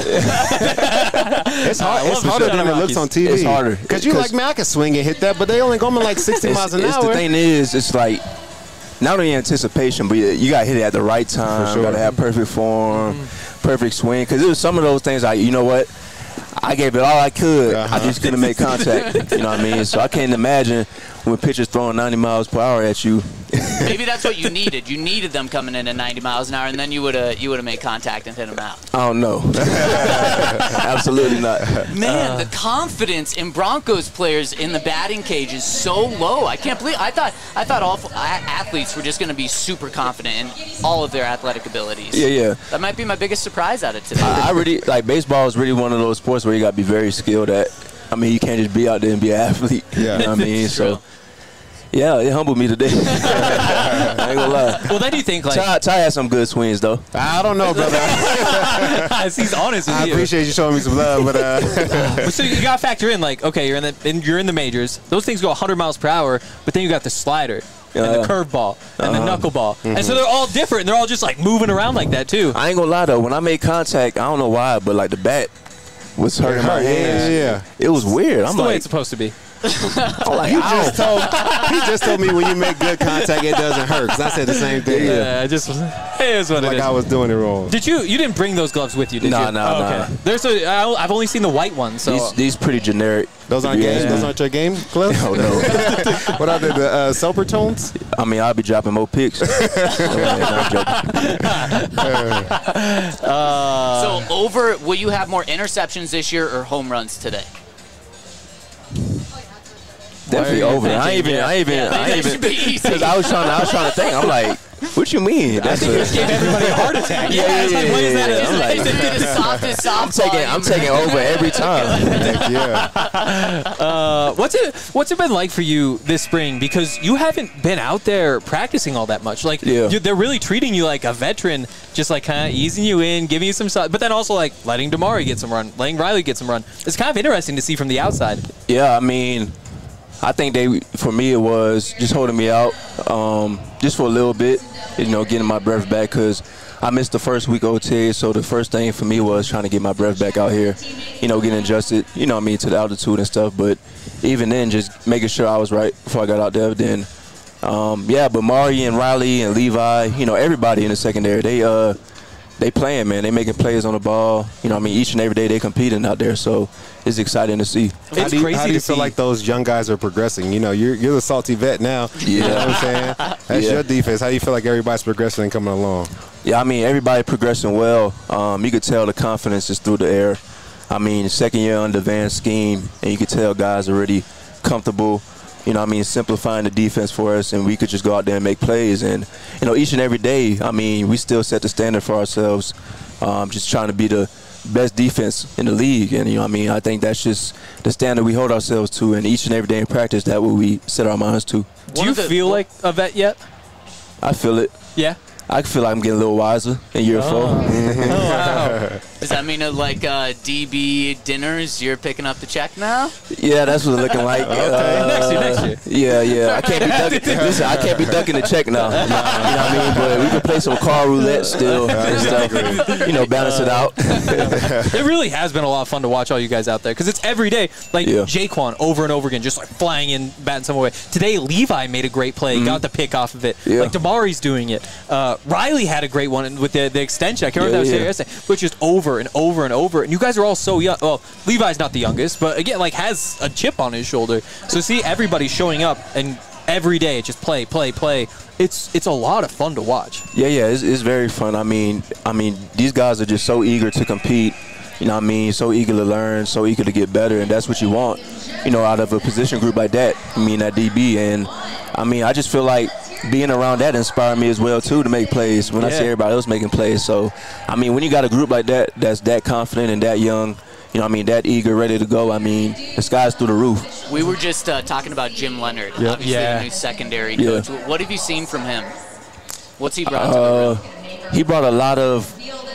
It's hard. It's harder than it looks on TV. It's harder. Because you're like, man, I can swing and hit that, but they only going like 60 miles an hour. The thing is, it's like not only anticipation, but you got to hit it at the right time. Sure. Got to have perfect form, perfect swing. Because it was some of those things like, you know what? I gave it all I could. I just couldn't make contact. You know what I mean? So I can't imagine when pitchers throwing 90 miles per hour at you. Maybe that's what you needed. You needed them coming in at 90 miles an hour, and then you would have made contact and hit them out. I don't know. Absolutely not. Man, the confidence in Broncos players in the batting cage is so low. I can't believe. I thought all athletes were just going to be super confident in all of their athletic abilities. Yeah. That might be my biggest surprise out of today. I really like baseball is really one of those sports where you got to be very skilled at. I mean, you can't just be out there and be an athlete. Yeah. You know what I mean? So. Yeah, it humbled me today. I ain't gonna lie. Well, then you think like Ty has some good swings though. I don't know, brother. he's honest with I you. appreciate you showing me some love, but So you got to factor in like, okay, you're in the majors. Those things go 100 miles per hour, but then you got the slider and the curveball and the knuckleball, and so they're all different. They're all just like moving around like that too. I ain't gonna lie though. When I made contact, I don't know why, but like the bat was hurting my hands. Yeah. It was weird. That's I'm the way like, it's supposed to be. I'm like, he just told me when you make good contact, it doesn't hurt. Because I said the same thing. Yeah, it is what like it is. I was doing it wrong. Did you didn't bring those gloves with you, did you? No. Okay. I've only seen the white ones. So these pretty generic. Those aren't games. Those aren't your game gloves. Oh no. What are they? The Soper tones? I mean, I'll be dropping more picks. So will you have more interceptions this year or home runs today? Definitely over. I ain't even. Because I was trying to think. I'm like, what you mean? I think you just gave everybody a heart attack. I'm taking over every time. What's it been like for you this spring? Because you haven't been out there practicing all that much. Like, they're really treating you like a veteran, just like kind of easing you in, giving you some stuff, but then also like letting Damari get some run, letting Riley get some run. It's kind of interesting to see from the outside. Yeah, I mean, I think for me, it was just holding me out just for a little bit, getting my breath back because I missed the first week OTA. So the first thing for me was trying to get my breath back out here, getting adjusted, to the altitude and stuff. But even then, just making sure I was right before I got out there. Then, but Mari and Riley and Levi, everybody in the secondary, they playing, man. They making plays on the ball. Each and every day they competing out there. So it's exciting to see. How do you feel like those young guys are progressing? You're the salty vet now. Yeah. You know what I'm saying? That's your defense. How do you feel like everybody's progressing and coming along? Yeah, I mean, everybody progressing well. You could tell the confidence is through the air. Second year under Van's scheme, and you could tell guys are already comfortable. Simplifying the defense for us, and we could just go out there and make plays. And, each and every day, we still set the standard for ourselves, just trying to be the best defense in the league. And, I think that's just the standard we hold ourselves to. And each and every day in practice, that's what we set our minds to. Do you feel like a vet yet? I feel it. Yeah? I feel like I'm getting a little wiser in year 4. Wow. Does that mean like DB dinners? You're picking up the check now? Yeah, that's what it's looking like. Next year. Yeah. I can't be ducking. Listen, I can't be ducking the check now. You know what I mean? But we can play some car roulette still and stuff. You know, balance it out. It really has been a lot of fun to watch all you guys out there because it's every day. Like Jaquan over and over again, just like flying in, batting some away. Today, Levi made a great play, got the pick off of it. Yeah. Like Damari's doing it. Riley had a great one with the extension. I can't remember that was yesterday, but just over and over and over. And you guys are all so young. Well, Levi's not the youngest, but again, like has a chip on his shoulder. So see everybody showing up and every day just play. It's a lot of fun to watch. Yeah, it's very fun. I mean, these guys are just so eager to compete. You know what I mean? So eager to learn, so eager to get better, and that's what you want, you know, out of a position group like that. I mean, that DB. And, I mean, I just feel like being around that inspired me as well, too, to make plays when I see everybody else making plays. So, I mean, when you got a group like that that's that confident and that young, you know what I mean, that eager, ready to go, I mean, the sky's through the roof. We were just talking about Jim Leonard, obviously the new secondary coach. What have you seen from him? What's he brought to the room? He brought a lot of,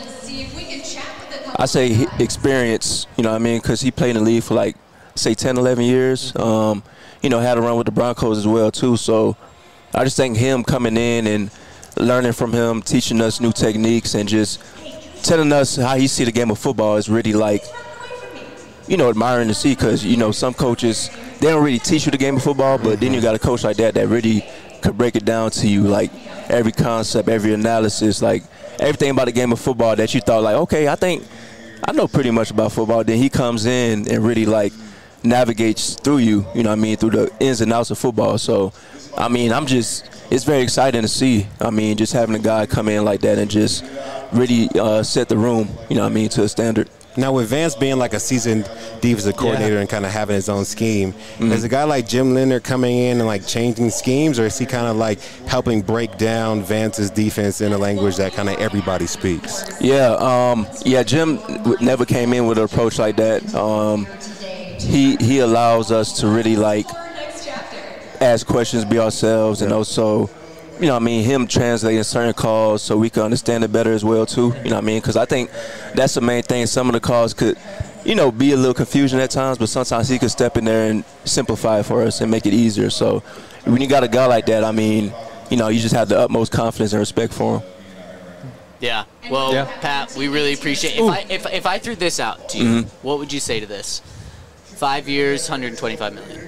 I say, experience, you know what I mean, because he played in the league for like, say, 10, 11 years. You know, had a run with the Broncos as well, too. So I just think him coming in and learning from him, teaching us new techniques, and just telling us how he see the game of football is really like, you know, admiring to see, because, you know, some coaches, they don't really teach you the game of football, but then you got a coach like that really could break it down to you, like every concept, every analysis, like everything about the game of football that you thought like, okay, I think I know pretty much about football. Then he comes in and really like navigates through you, you know what I mean, through the ins and outs of football. So, I mean, it's very exciting to see. I mean, just having a guy come in like that and just really set the room, you know what I mean, to a standard. Now, with Vance being like a seasoned defensive coordinator and kind of having his own scheme, is a guy like Jim Leonard coming in and like changing schemes, or is he kind of like helping break down Vance's defense in a language that kind of everybody speaks? Yeah, Jim never came in with an approach like that. He allows us to really like ask questions, be ourselves, and also, you know what I mean, him translating certain calls so we can understand it better as well, too. You know what I mean? Because I think that's the main thing. Some of the calls could, you know, be a little confusion at times, but sometimes he could step in there and simplify it for us and make it easier. So when you got a guy like that, I mean, you know, you just have the utmost confidence and respect for him. Yeah. Well, Pat, we really appreciate it. If I threw this out to you, what would you say to this? 5 years, $125 million.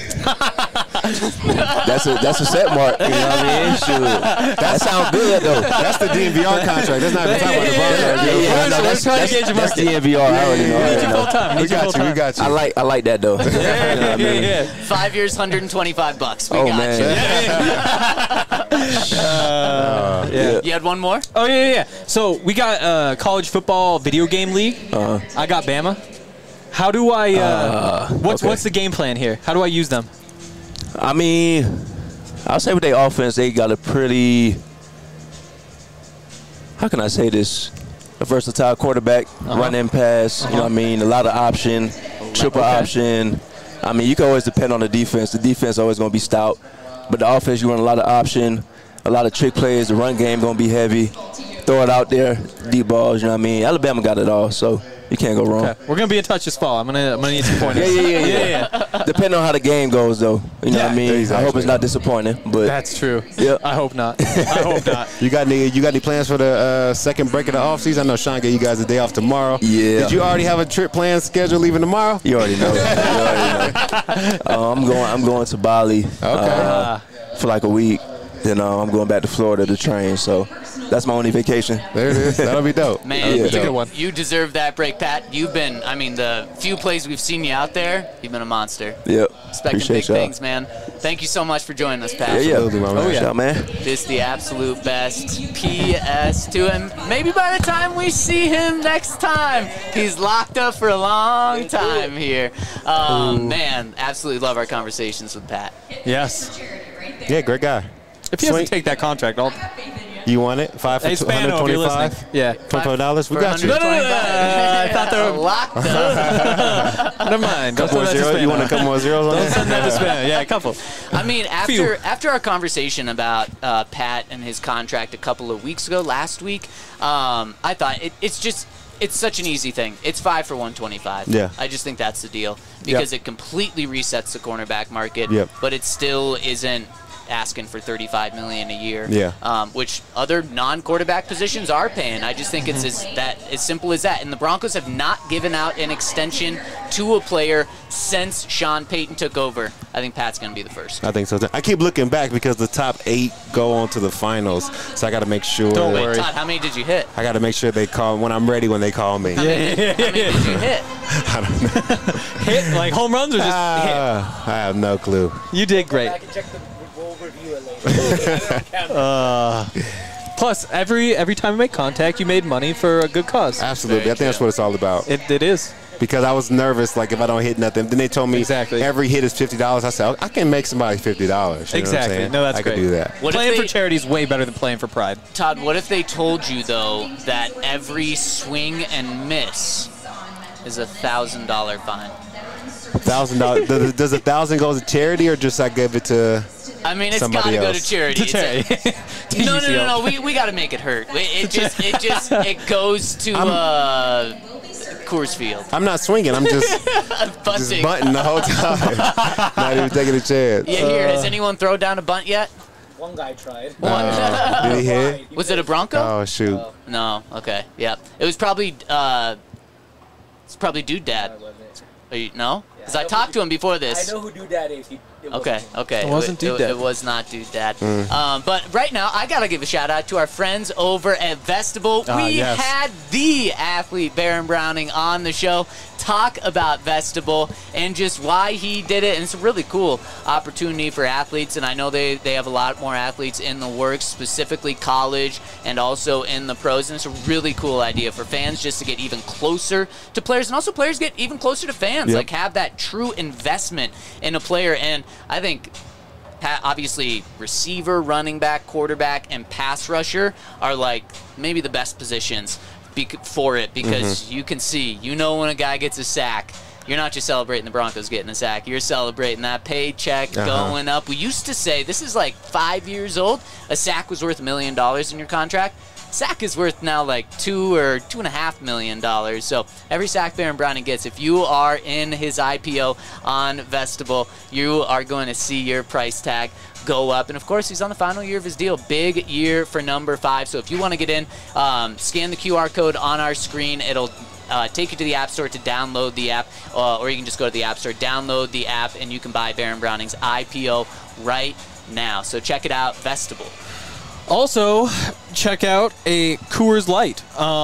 That's a set mark. You know what I mean? Shoot. That sounds good though. That's the DNVR contract. That's not even talking about the Broncos. That's DNVR. I already know. We got you. I like that though. Yeah. 5 years, $125. We got you. You had one more? Oh yeah. So we got college football video game league. I got Bama. How do I? What's the game plan here? How do I use them? I mean, I'll say with their offense, they got a pretty. How can I say this? A versatile quarterback, run and pass. You know what I mean? A lot of option, triple option. I mean, you can always depend on the defense. The defense is always going to be stout, but the offense, you run a lot of option, a lot of trick plays. The run game going to be heavy. Throw it out there, deep balls. You know what I mean? Alabama got it all, so you can't go wrong. Okay. We're gonna be in touch this fall. I'm gonna need some pointers. Yeah. Depending on how the game goes, though. You know what I mean? Exactly. I hope it's not disappointing, but that's true. Yeah. I hope not. You got any plans for the second break of the offseason? I know Sean gave you guys a day off tomorrow. Yeah. Did you already have a trip planned scheduled leaving tomorrow? You already know. I'm going to Bali. Okay. For like a week. Then I'm going back to Florida to train. So that's my only vacation. There it is. That'll be dope. Man, you deserve that break, Pat. You've been, the few plays we've seen you out there, you've been a monster. Yep. Expecting big things, man. Thank you so much for joining us, Pat. Absolutely, my man. Oh, man. This is the absolute best PS2. And maybe by the time we see him next time, he's locked up for a long time here. Man, absolutely love our conversations with Pat. Yes. Yeah, great guy. If he doesn't take that contract, I'll You want it? 5 for Hey, Spano, if you're listening. $125? Yeah. $25? We got you. No, I thought they were locked up. Never mind. Couple more zeros? You want a couple more zeros on Don't that? send that to Spano. Yeah, a couple. I mean, after our conversation about Pat and his contract a couple of weeks ago, last week, I thought it's such an easy thing. It's 5 for $125. Yeah. I just think that's the deal because it completely resets the cornerback market. Yep. But it still isn't asking for $35 million a year. Yeah. Which other non-quarterback positions are paying. I just think it's as simple as that. And the Broncos have not given out an extension to a player since Sean Payton took over. I think Pat's going to be the first. I think so. I keep looking back because the top 8 go on to the finals, so I got to make sure. Don't worry. Todd, how many did you hit? I got to make sure they call when I'm ready when they call me. How many did you hit? I don't know. Hit like home runs or just hit? I have no clue. You did great. I can check the overview later. Plus, every time you make contact, you made money for a good cause. Absolutely. I think that's what it's all about. It is. Because I was nervous, like if I don't hit nothing. Then they told me every hit is $50. I said, I can make somebody $50. You know exactly. What I'm saying? No, that's I great. could do that. Playing for charity is way better than playing for pride. Todd, what if they told you, though, that every swing and miss is a $1,000 fine? $1,000. Does $1,000 go to charity or just I give it to? I mean, it's got to go to charity. To charity. No. We got to make it hurt. It goes to Coors Field. I'm not swinging. I'm just bunting the whole time. Not even taking a chance. Yeah, here. Has anyone thrown down a bunt yet? One guy tried. Did he hit? Was it a Bronco? Oh shoot. No. Okay. Yeah. It was probably. It's probably Dude Dad. No? Because I talked to him before this. I know who Dude Dad is. Okay. It wasn't Dude Dad. It was not Dude Dad. But right now, I got to give a shout out to our friends over at Vestibule. We had the athlete, Baron Browning, on the show. Talk about Vestibule and just why he did it. And it's a really cool opportunity for athletes. And I know they have a lot more athletes in the works, specifically college and also in the pros. And it's a really cool idea for fans just to get even closer to players. And also players get even closer to fans. Yep. Like have that true investment in a player. And I think obviously receiver, running back, quarterback, and pass rusher are like maybe the best positions for it because you can see, when a guy gets a sack, you're not just celebrating the Broncos getting a sack. You're celebrating that paycheck going up. We used to say, this is like 5 years old, a sack was worth $1 million in your contract. Sack is worth now like $2 or $2.5 million. So every sack Baron Browning gets, if you are in his IPO on Vestibule, you are going to see your price tag go up. And of course, he's on the final year of his deal. Big year for number 5. So if you want to get in, scan the QR code on our screen. It'll take you to the App Store to download the app, or you can just go to the App Store, download the app, and you can buy Baron Browning's IPO right now. So check it out, Vestibule. Also, check out a Coors Light.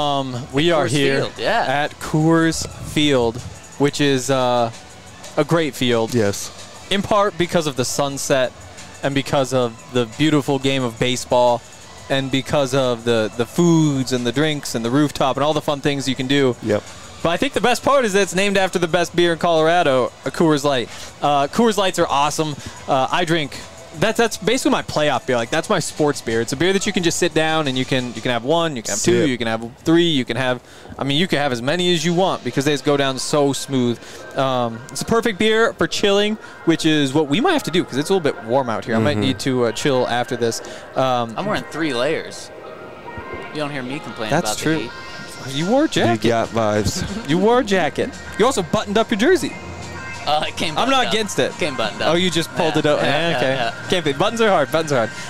We are Coors here Field, yeah. at Coors Field, which is a great field. Yes. In part because of the sunset and because of the beautiful game of baseball and because of the foods and the drinks and the rooftop and all the fun things you can do. Yep. But I think the best part is that it's named after the best beer in Colorado, a Coors Light. Coors Lights are awesome. I drink. That's basically my playoff beer. Like, that's my sports beer. It's a beer that you can just sit down and you can have one, you can have two, you can have three, you can have as many as you want because they just go down so smooth. It's a perfect beer for chilling, which is what we might have to do because it's a little bit warm out here. I might need to chill after this. I'm wearing 3 layers. You don't hear me complain about That's true. the heat. You wore a jacket. You got vibes. You wore a jacket. You also buttoned up your jersey. It came I'm buttoned not up. against it. Came buttoned up. Oh, you just pulled it up. Okay. Yeah. Can't be. Buttons are hard.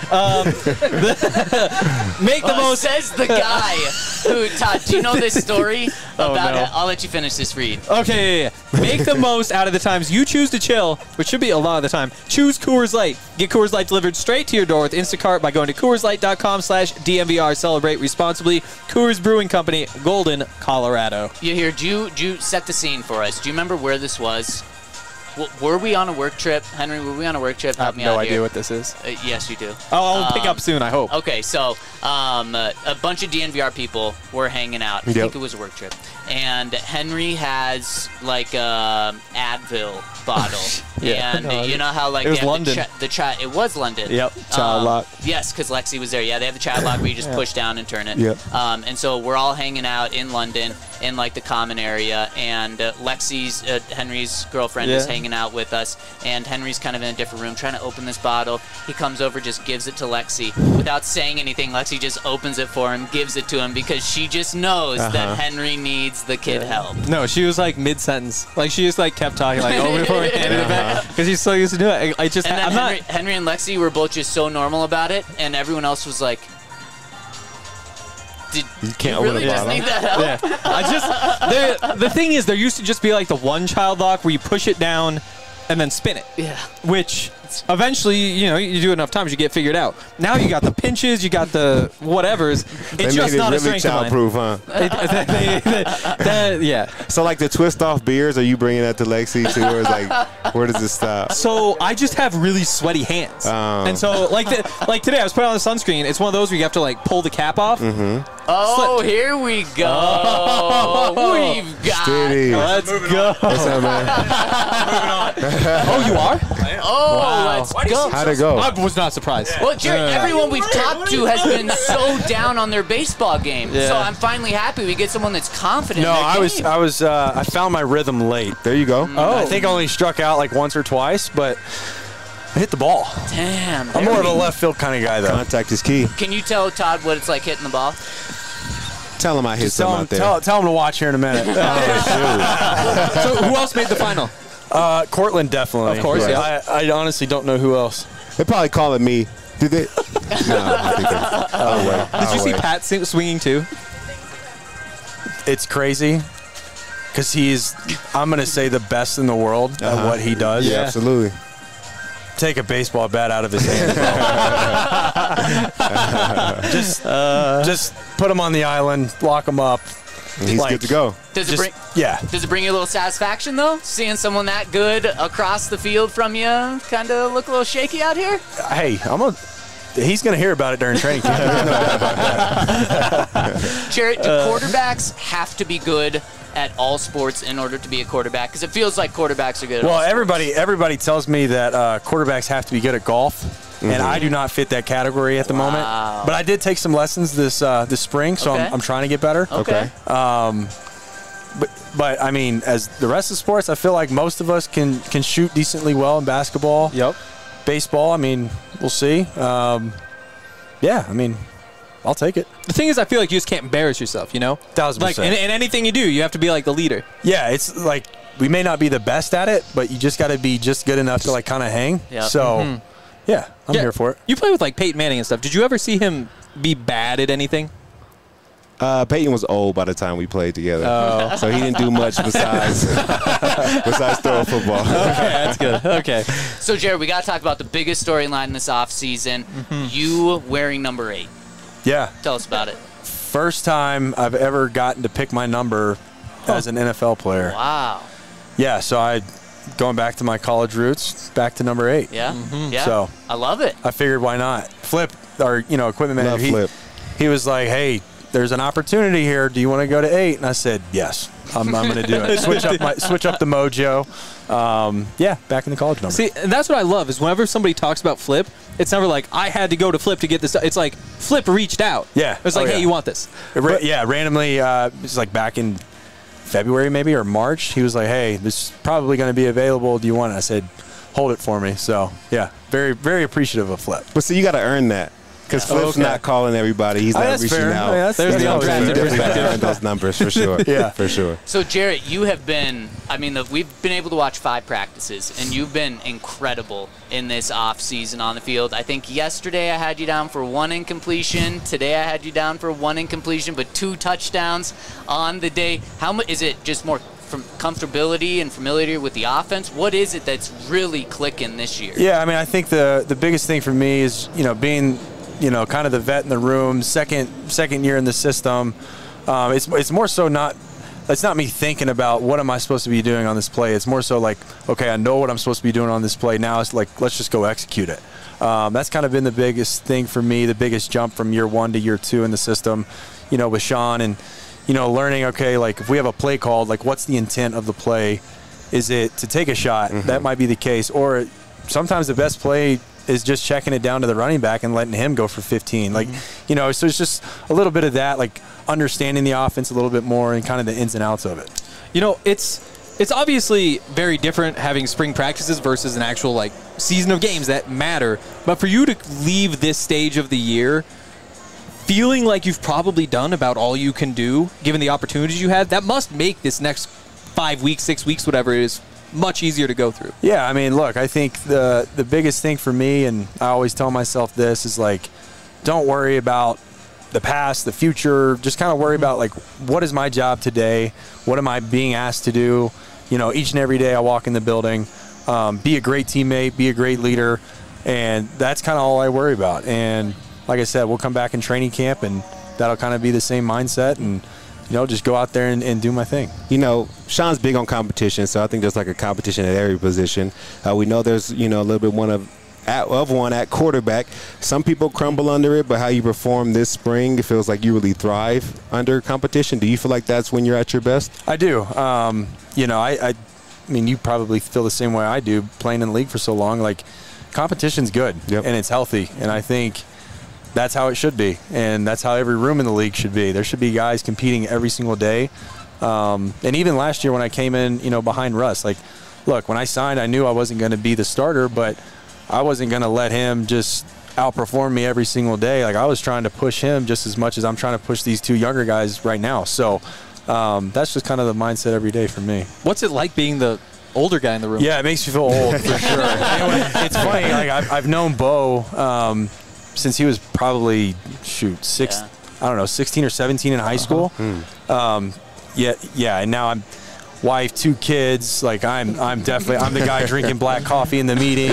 Make the most. Says the guy who, Todd, do you know this story about no. it? I'll let you finish this read. Okay, yeah. Make the most out of the times you choose to chill, which should be a lot of the time. Choose Coors Light. Get Coors Light delivered straight to your door with Instacart by going to CoorsLight.com/DMVR. Celebrate responsibly. Coors Brewing Company, Golden, Colorado. You hear, do you set the scene for us? Do you remember where this was? Were we on a work trip, Henry? Were we on a work trip? I have no idea what this is. Yes, you do. Oh, I'll pick up soon, I hope. Okay, so a bunch of DNVR people were hanging out. I think it was a work trip. And Henry has like a Advil bottle. And you know how like it was London. It was London. Yep. Child lock. Yes, because Lexi was there. Yeah, they have the child lock where you just push down and turn it. Yep. And so we're all hanging out in London in like the common area, and Lexi's Henry's girlfriend is hanging out with us, and Henry's kind of in a different room trying to open this bottle. He comes over, just gives it to Lexi without saying anything. Lexi just opens it for him, gives it to him because she just knows that Henry needs the kid help. No, she was like mid-sentence. Like she just like kept talking like over before we handed it back because she's so used to do it. I just and then Henry and Lexi were both just so normal about it, and everyone else was like, "Did you really just need that help?" Yeah. The thing is, there used to just be like the one child lock where you push it down and then spin it. Yeah. Which eventually, you do it enough times, you get figured out. Now you got the pinches, you got the whatevers. It's just not a strength of mine. Childproof, huh? Yeah. So like the twist off beers, are you bringing that to Lexi too, or is like where does it stop? So I just have really sweaty hands, and so like today I was putting on the sunscreen. It's one of those where you have to like pull the cap off. Oh, here we go. We've got. Steady. Let's go. What's up, man? Oh, you are? Oh, let's go. How'd it go? I was not surprised. Well, Jared, everyone we've talked to has been so down on their baseball game. So I'm finally happy we get someone that's confident. No, in their game. I found my rhythm late. There you go. I think I only struck out like once or twice, but I hit the ball. Damn. I'm more of a left field kind of guy, though. Contact is key. Can you tell Todd what it's like hitting the ball? Tell him I hit some out there. Tell him to watch here in a minute. So who else made the final? Cortland, definitely. Of course, yeah. I honestly don't know who else. They're probably calling me. Did they? No, I think Did you see Pat swinging too? It's crazy because he's, I'm going to say, the best in the world at what he does. Yeah, absolutely. Take a baseball bat out of his hand. Just put him on the island, lock him up. And he's good to go. Does it bring you a little satisfaction though, seeing someone that good across the field from you kind of look a little shaky out here? Hey, he's going to hear about it during training camp. Jarrett, do quarterbacks have to be good at all sports in order to be a quarterback? Because it feels like quarterbacks are good at all sports. Everybody tells me that quarterbacks have to be good at golf. And I do not fit that category at the moment. But I did take some lessons this spring, so I'm trying to get better. Okay. But I mean, as the rest of sports, I feel like most of us can shoot decently well in basketball. Yep. Baseball, I mean, we'll see. Yeah, I mean, I'll take it. The thing is, I feel like you just can't embarrass yourself, 1,000%. Like in anything you do, you have to be like the leader. Yeah, it's like we may not be the best at it, but you just got to be just good enough to like kind of hang. Yep. So, yeah, I'm here for it. You play with like Peyton Manning and stuff. Did you ever see him be bad at anything? Peyton was old by the time we played together, so he didn't do much besides throw a football. Okay, that's good. Okay. So, Jared, we got to talk about the biggest storyline this offseason. You wearing number 8. Yeah. Tell us about it. First time I've ever gotten to pick my number as an NFL player. Wow. Yeah, so going back to my college roots, back to number 8. Yeah. Yeah. So I love it. I figured why not? Flip, our equipment manager. Flip. He was like, hey, there's an opportunity here. Do you want to go to 8? And I said, yes, I'm going to do it. Switch up the mojo. Yeah, back in the college number. See, and that's what I love is whenever somebody talks about Flip, it's never like, I had to go to Flip to get this. It's like, Flip reached out. Yeah. It's like, hey, you want this? Randomly, it's like back in February maybe or March, he was like, hey, this is probably going to be available. Do you want it? I said, hold it for me. So, yeah, very, very appreciative of Flip. But see, you got to earn that. Because Flip's not calling everybody. He's not reaching out. Yeah, there's the undrafted perspective. Those numbers for sure. Yeah, for sure. So, Jarrett, you have been, we've been able to watch 5 practices, and you've been incredible in this offseason on the field. I think yesterday I had you down for 1 incompletion. Today I had you down for 1 incompletion, but 2 touchdowns on the day. How much is it just more from comfortability and familiarity with the offense? What is it that's really clicking this year? Yeah, I think the biggest thing for me is, being – kind of the vet in the room, second year in the system. It's more so not that's not me thinking about what am I supposed to be doing on this play. It's more so like, okay, I know what I'm supposed to be doing on this play. Now it's like, let's just go execute it. That's kind of been the biggest thing for me, the biggest jump from year 1 to year 2 in the system, with Sean and, learning, okay, like if we have a play called, like what's the intent of the play? Is it to take a shot? That might be the case. Or sometimes the best play is just checking it down to the running back and letting him go for 15. Like, so it's just a little bit of that, like understanding the offense a little bit more and kind of the ins and outs of it. It's obviously very different having spring practices versus an actual like season of games that matter. But for you to leave this stage of the year feeling like you've probably done about all you can do, given the opportunities you had, that must make this next 5 weeks, 6 weeks, whatever it is, much easier to go through. Yeah, I mean, look, I think the biggest thing for me, and I always tell myself this, is like, don't worry about the past, the future. Just kind of worry about like, what is my job today? What am I being asked to do? Each and every day I walk in the building, be a great teammate, be a great leader, and that's kind of all I worry about. And like I said, we'll come back in training camp, and that'll kind of be the same mindset, and just go out there and do my thing. Sean's big on competition, so I think there's like a competition at every position. We know there's, a little bit one at quarterback. Some people crumble under it, but how you perform this spring, it feels like you really thrive under competition. Do you feel like that's when you're at your best? I do. I mean, you probably feel the same way I do, playing in the league for so long. Like, competition's good, and it's healthy, and I think that's how it should be, and that's how every room in the league should be. There should be guys competing every single day. And even last year when I came in, behind Russ, like, look, when I signed, I knew I wasn't going to be the starter, but I wasn't going to let him just outperform me every single day. Like, I was trying to push him just as much as I'm trying to push these two younger guys right now. So that's just kind of the mindset every day for me. What's it like being the older guy in the room? Yeah, it makes me feel old for sure. It's funny. Like, I've known Bo since he was probably, 16 or 17 in high school. And now I'm wife, 2 kids. Like, I'm the guy drinking black coffee in the meeting.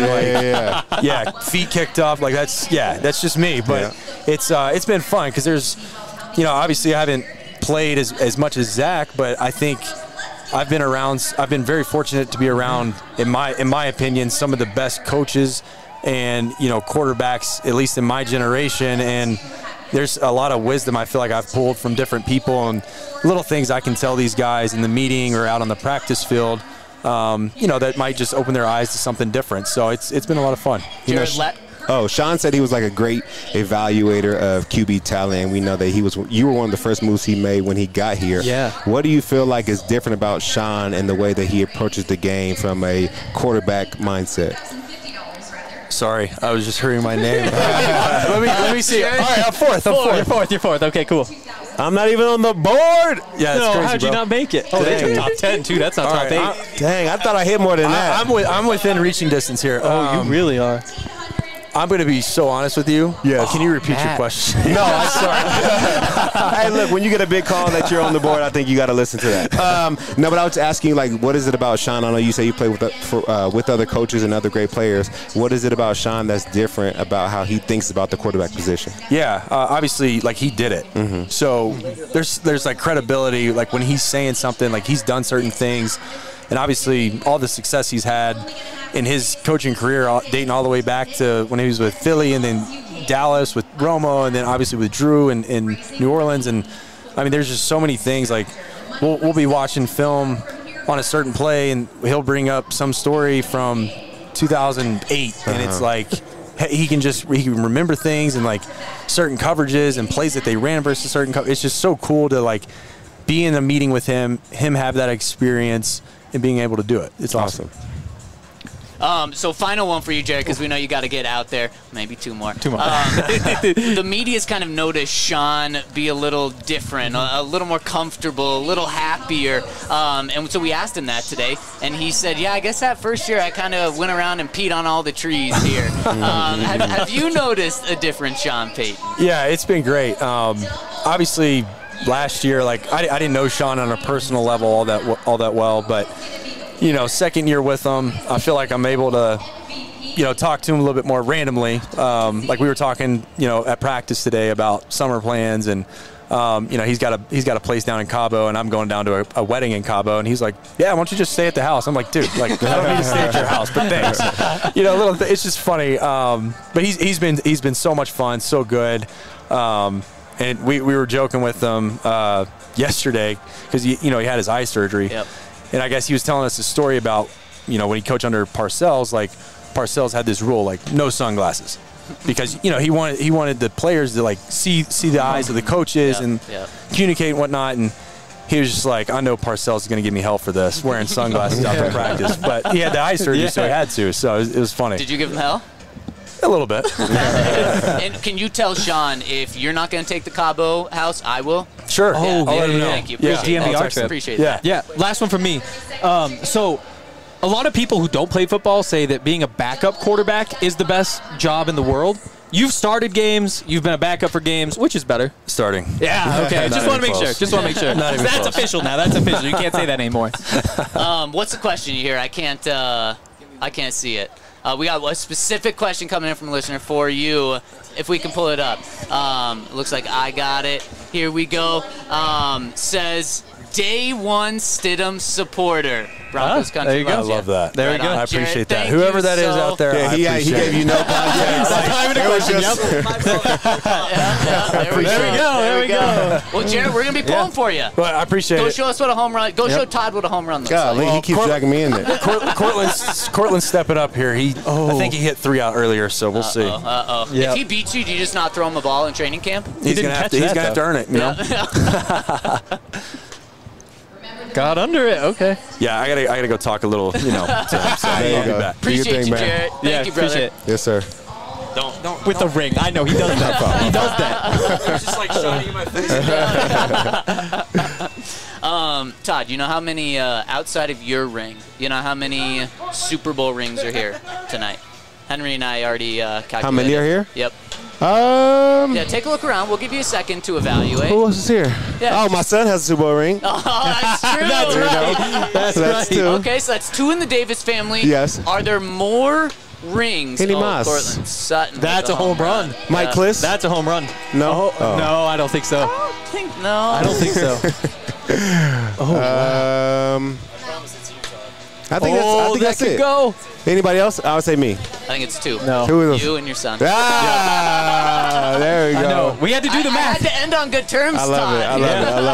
Like, feet kicked up. Like, that's just me. But it's been fun because there's, obviously I haven't played as much as Zach, but I think I've been very fortunate to be around, in my opinion, some of the best coaches and quarterbacks, at least in my generation, and there's a lot of wisdom I feel like I've pulled from different people and little things I can tell these guys in the meeting or out on the practice field, that might just open their eyes to something different. So it's been a lot of fun. Sean said he was like a great evaluator of QB talent, and we know that you were one of the first moves he made when he got here. Yeah. What do you feel like is different about Sean and the way that he approaches the game from a quarterback mindset? Sorry, I was just hearing my name. let me see. All right, I'm fourth. You're fourth. Okay, cool. I'm not even on the board. Yeah, that's crazy, how'd you not make it? Oh, they took top 10 too. That's not top 8. Dang, I thought I hit more than that. I'm within reaching distance here. Oh, you really are. I'm going to be so honest with you. Yes. Can you repeat your question? No, I'm sorry. Hey, look, when you get a big call that you're on the board, I think you got to listen to that. No, but I was asking, like, what is it about Sean? I know you say you play with other coaches and other great players. What is it about Sean that's different about how he thinks about the quarterback position? Yeah, obviously, like, he did it. Mm-hmm. So there's like credibility, like when he's saying something, like he's done certain things. And obviously, all the success he's had in his coaching career, dating all the way back to when he was with Philly and then Dallas with Romo and then obviously with Drew in New Orleans. And, I mean, there's just so many things. Like, we'll be watching film on a certain play, and he'll bring up some story from 2008. And it's like he can remember things and, like, certain coverages and plays that they ran versus certain – it's just so cool to, like, be in a meeting with him have that experience – and being able to do it. It's awesome. So final one for you, Jared, because we know you got to get out there. Maybe 2 more. 2 more. The media's kind of noticed Sean be a little different, a little more comfortable, a little happier. And so we asked him that today, and he said, yeah, I guess that first year I kind of went around and peed on all the trees here. Have you noticed a different Sean Payton? Yeah, it's been great. Obviously, last year, like, I didn't know Sean on a personal level all that well, but second year with him, I feel like I'm able to talk to him a little bit more randomly. Like we were talking at practice today about summer plans, and he's got a place down in Cabo, and I'm going down to a wedding in Cabo, and he's like, yeah, why don't you just stay at the house? I'm like, dude, like I don't need to stay at your house, but thanks. It's just funny. But he's been so much fun, so good. And we were joking with him yesterday because he had his eye surgery, and I guess he was telling us a story about when he coached under Parcells, like Parcells had this rule, like no sunglasses. Because he wanted the players to like see the eyes of the coaches and communicate and whatnot, and he was just like, I know Parcells is going to give me hell for this, wearing sunglasses out for practice, but he had the eye surgery, so he had to. So it was funny. Did you give him hell? A little bit. And can you tell Sean if you're not going to take the Cabo house, I will? Sure. Thank you. Appreciate that. Yeah. Last one from me. So a lot of people who don't play football say that being a backup quarterback is the best job in the world. You've started games. You've been a backup for games. Which is better? Starting. Yeah, okay. Just want to make sure. That's official now. That's official. You can't say that anymore. What's the question you hear? I can't see it. We got a specific question coming in from a listener for you. If we can pull it up. Looks like I got it. Here we go. Says, Day One Stidham supporter. Broncos country. There you go. I love that. There we go. I appreciate that. Whoever that is out there, he gave you no context. There we go. Well, Jared, we're going to be pulling for you. Well, I appreciate it. Go show us what a home run. Go show Todd what a home run looks like. He keeps dragging me in there. Cortland's stepping up here. I think he hit 3 out earlier, so we'll see. Yep. If he beats you, do you just not throw him a ball in training camp? He's going to have to earn it, Got under it. Okay. Yeah, I gotta go talk a little, to him. So I'll be back. Appreciate you, Jared. Thank you, brother. Appreciate it. Yes, sir. Don't with the ring. I know he does that. He does that. It's just like showing you my face. Todd, you know how many outside of your ring? You know how many Super Bowl rings are here tonight? Henry and I already calculated. How many are here? Yep. Yeah, take a look around. We'll give you a second to evaluate. Who else is here? Yeah. Oh, my son has a Super Bowl ring. Oh, that's true. That's right. That's 2. Okay, so that's 2 in the Davis family. Yes. Are there more rings? Henny Moss. Portland Sutton. That's a home run. Mike Kliss. That's a home run. No. No, I don't think so. I don't think so. I think that's it. Go. Anybody else? I would say me. I think it's 2. No. Who is You and your son. There we go. I know. We had to do the math. I had to end on good terms, I love it. I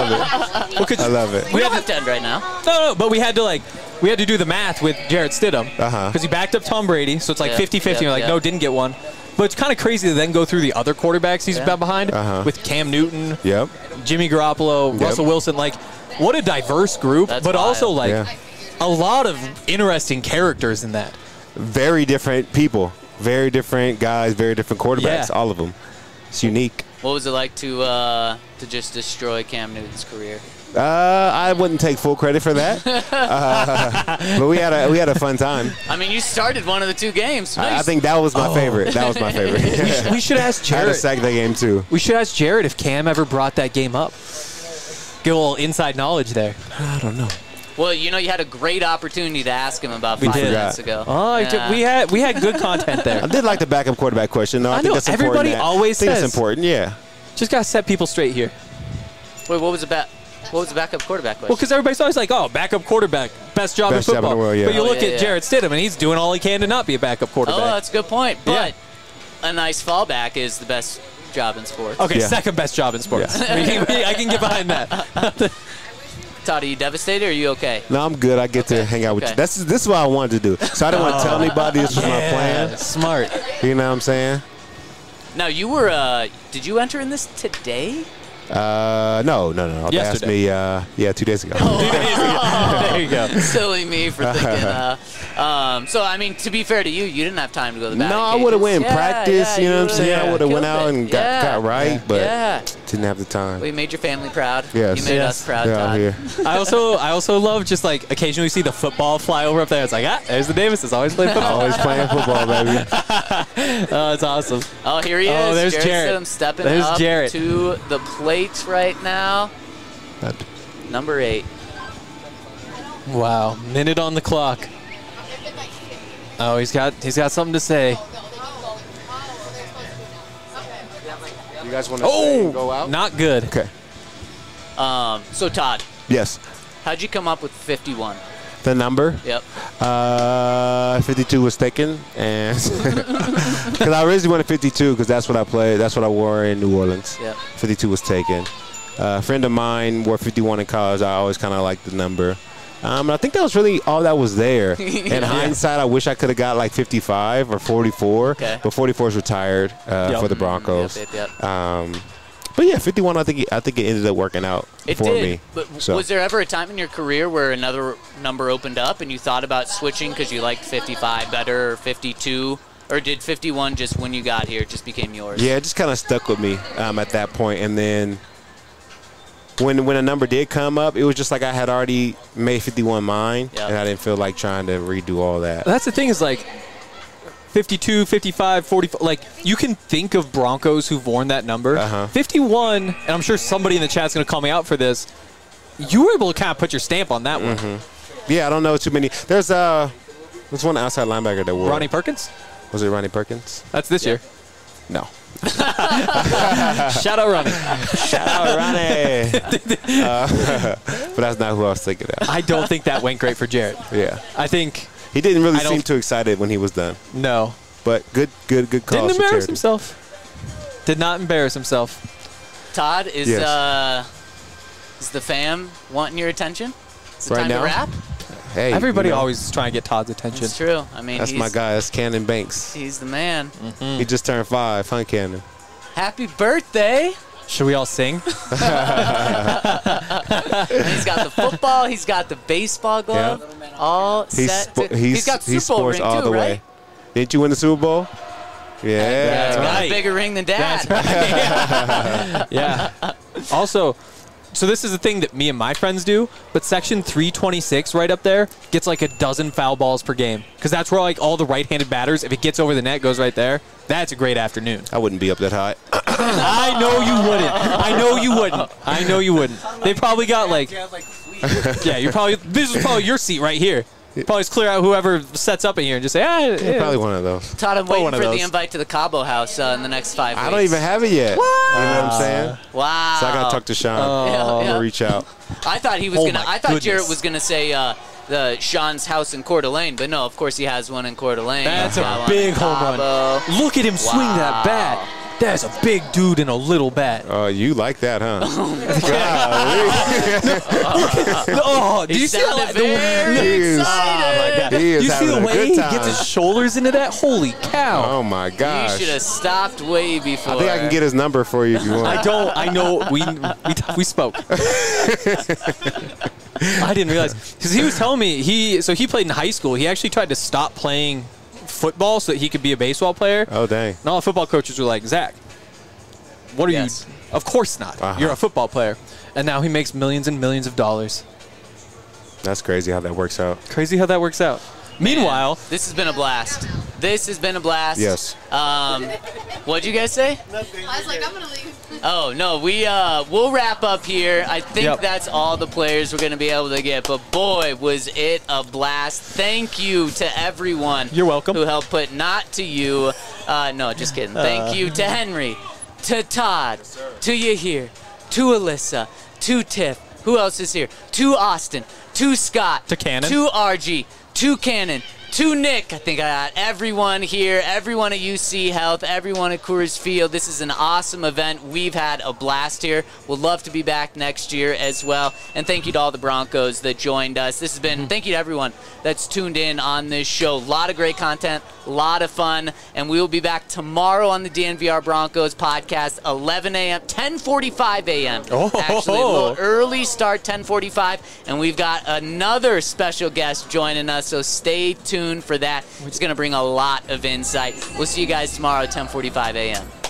love it. We don't have to end right now. No, but we had to do the math with Jarrett Stidham because he backed up Tom Brady, so it's like 50-50. We're like, no, didn't get one. But it's kind of crazy to then go through the other quarterbacks he's been behind with Cam Newton, Jimmy Garoppolo, Russell Wilson. Like, what a diverse group, but wild. Also like a lot of interesting characters in that. Very different people, very different guys, very different quarterbacks. All of them. It's unique. What was it like to just destroy Cam Newton's career? I wouldn't take full credit for that, but we had a fun time. I mean, you started one of the 2 games. Nice. I think that was my favorite. That was my favorite. We should ask Jared. I had to sack that game too. We should ask Jared if Cam ever brought that game up. Get a little inside knowledge there. I don't know. Well, you had a great opportunity to ask him about 5 minutes ago. Oh, yeah. we had good content there. I did like the backup quarterback question, though. I think that's important. Everybody always says. I think it's important, yeah. Just got to set people straight here. Wait, what was the backup quarterback question? Well, because everybody's always like, oh, backup quarterback, best job in football. Job in the world, yeah. But you look at Jarrett Stidham, and he's doing all he can to not be a backup quarterback. Oh, that's a good point. But a nice fallback is the best job in sports. Okay, second best job in sports. Yeah. I can get behind that. Todd, are you devastated or are you okay? No, I'm good. I get to hang out with you. This is what I wanted to do. So I didn't want to tell anybody this was my plan. Smart. You know what I'm saying? Now, you were, did you enter in this today? No. They asked me, 2 days ago. 2 days ago. There you go. Silly me for thinking. So, I mean, to be fair to you, you didn't have time to go to the batting No, I cages. would have went in practice, you know what I'm saying? I would have went out and got right, but didn't have the time. Well, you made your family proud. Yes. You made us proud, Todd. Here. I also love just like occasionally see the football fly over up there. It's like, there's the Davises. Always playing football. Always playing football, baby. Oh, it's awesome. Oh, here he is. Oh, there's Jarrett. Stidham stepping there's up Jarrett. to the plate right now. Number 8. Wow, minute on the clock. Oh, he's got something to say. You guys want to go out? Not good. Okay. So, Todd. Yes. How'd you come up with 51? The number? Yep. 52 was taken, and because I originally wanted 52 because that's what I played. That's what I wore in New Orleans. Yep. 52 was taken. A friend of mine wore 51 in college. I always kind of liked the number. And I think that was really all that was there. In hindsight, I wish I could have got like 55 or 44, okay. But 44 is retired for the Broncos. Yep. But yeah, 51. I think it ended up working out for me. But was there ever a time in your career where another number opened up and you thought about switching because you liked 55 better or 52? Or did 51 just when you got here just became yours? Yeah, it just kind of stuck with me at that point. And then when a number did come up, it was just like I had already made 51 mine, and I didn't feel like trying to redo all that. That's the thing is like 52, 55, 45. Like you can think of Broncos who've worn that number. 51, and I'm sure somebody in the chat's going to call me out for this. You were able to kind of put your stamp on that one. Yeah, I don't know too many. There's one outside linebacker that wore Ronnie Perkins? Was it Ronnie Perkins? That's this year. No. Shout out Ronnie. Shout out Ronnie. But that's not who I was thinking of. I don't think that went great for Jarrett. Yeah. I think he didn't really seem too excited when he was done. No. But good call. Didn't embarrass himself. Did not embarrass himself. Todd, is the fam wanting your attention? Is it right time now? to wrap? Hey, everybody always trying to get Todd's attention. That's true. I mean, that's my guy. That's Cannon Banks. He's the man. He just turned 5. Huh, Cannon? Happy birthday. Should we all sing? He's got the football. He's got the baseball glove. Yeah. All set. He's got the Super Bowl ring all too, the right? way. Didn't you win the Super Bowl? Yeah. That's got a bigger ring than Dad. Yeah. Also, so this is the thing that me and my friends do, but Section 326 right up there gets like a dozen foul balls per game because that's where like all the right-handed batters, if it gets over the net, goes right there. That's a great afternoon. I wouldn't be up that high. I know you wouldn't. They probably got like, yeah, this is probably your seat right here. Probably just clear out whoever sets up in here and just say, probably one of those. Todd, I'm waiting for the invite to the Cabo House in the next 5 weeks. I don't even have it yet. What? You know what I'm saying? Wow. So I got to talk to Sean. I'm going to reach out. I thought he was I thought Jarrett was going to say the Sean's house in Coeur d'Alene, but no, of course he has one in Coeur d'Alene. That's a big home run. Look at him swing that bat. That's a big dude in a little bat. Oh, you like that, huh? Do you see how very excited? Do you see the way he gets his shoulders into that? Holy cow! Oh my gosh! You should have stopped way before. I think I can get his number for you if you want. I know. We spoke. I didn't realize because he was telling me he played in high school. He actually tried to stop playing football so that he could be a baseball player. Oh, dang. And all the football coaches were like, Zach, what are you? Of course not. You're a football player. And now he makes millions and millions of dollars. That's crazy how that works out. Crazy how that works out. Meanwhile, this has been a blast. Yes. What'd you guys say? Nothing. I was like, I'm going to leave. Oh, no. We'll wrap up here. I think that's all the players we're going to be able to get. But, boy, was it a blast. Thank you to everyone. You're welcome. Who helped put not to you. No, just kidding. Thank you to Henry, to Todd, to Yahir, to Alyssa, to Tiff. Who else is here? To Austin, to Scott, to Cannon, to RG, to Cannon, to Nick. I think I got everyone here, everyone at UC Health, everyone at Coors Field. This is an awesome event. We've had a blast here. We'll love to be back next year as well. And thank you to all the Broncos that joined us. This has been, thank you to everyone that's tuned in on this show. A lot of great content, a lot of fun. And we will be back tomorrow on the DNVR Broncos podcast, 11 a.m., 10:45 a.m. Actually, a little early start, 10:45. And we've got another special guest joining us, so stay tuned for that. It's going to bring a lot of insight. We'll see you guys tomorrow at 10:45 a.m.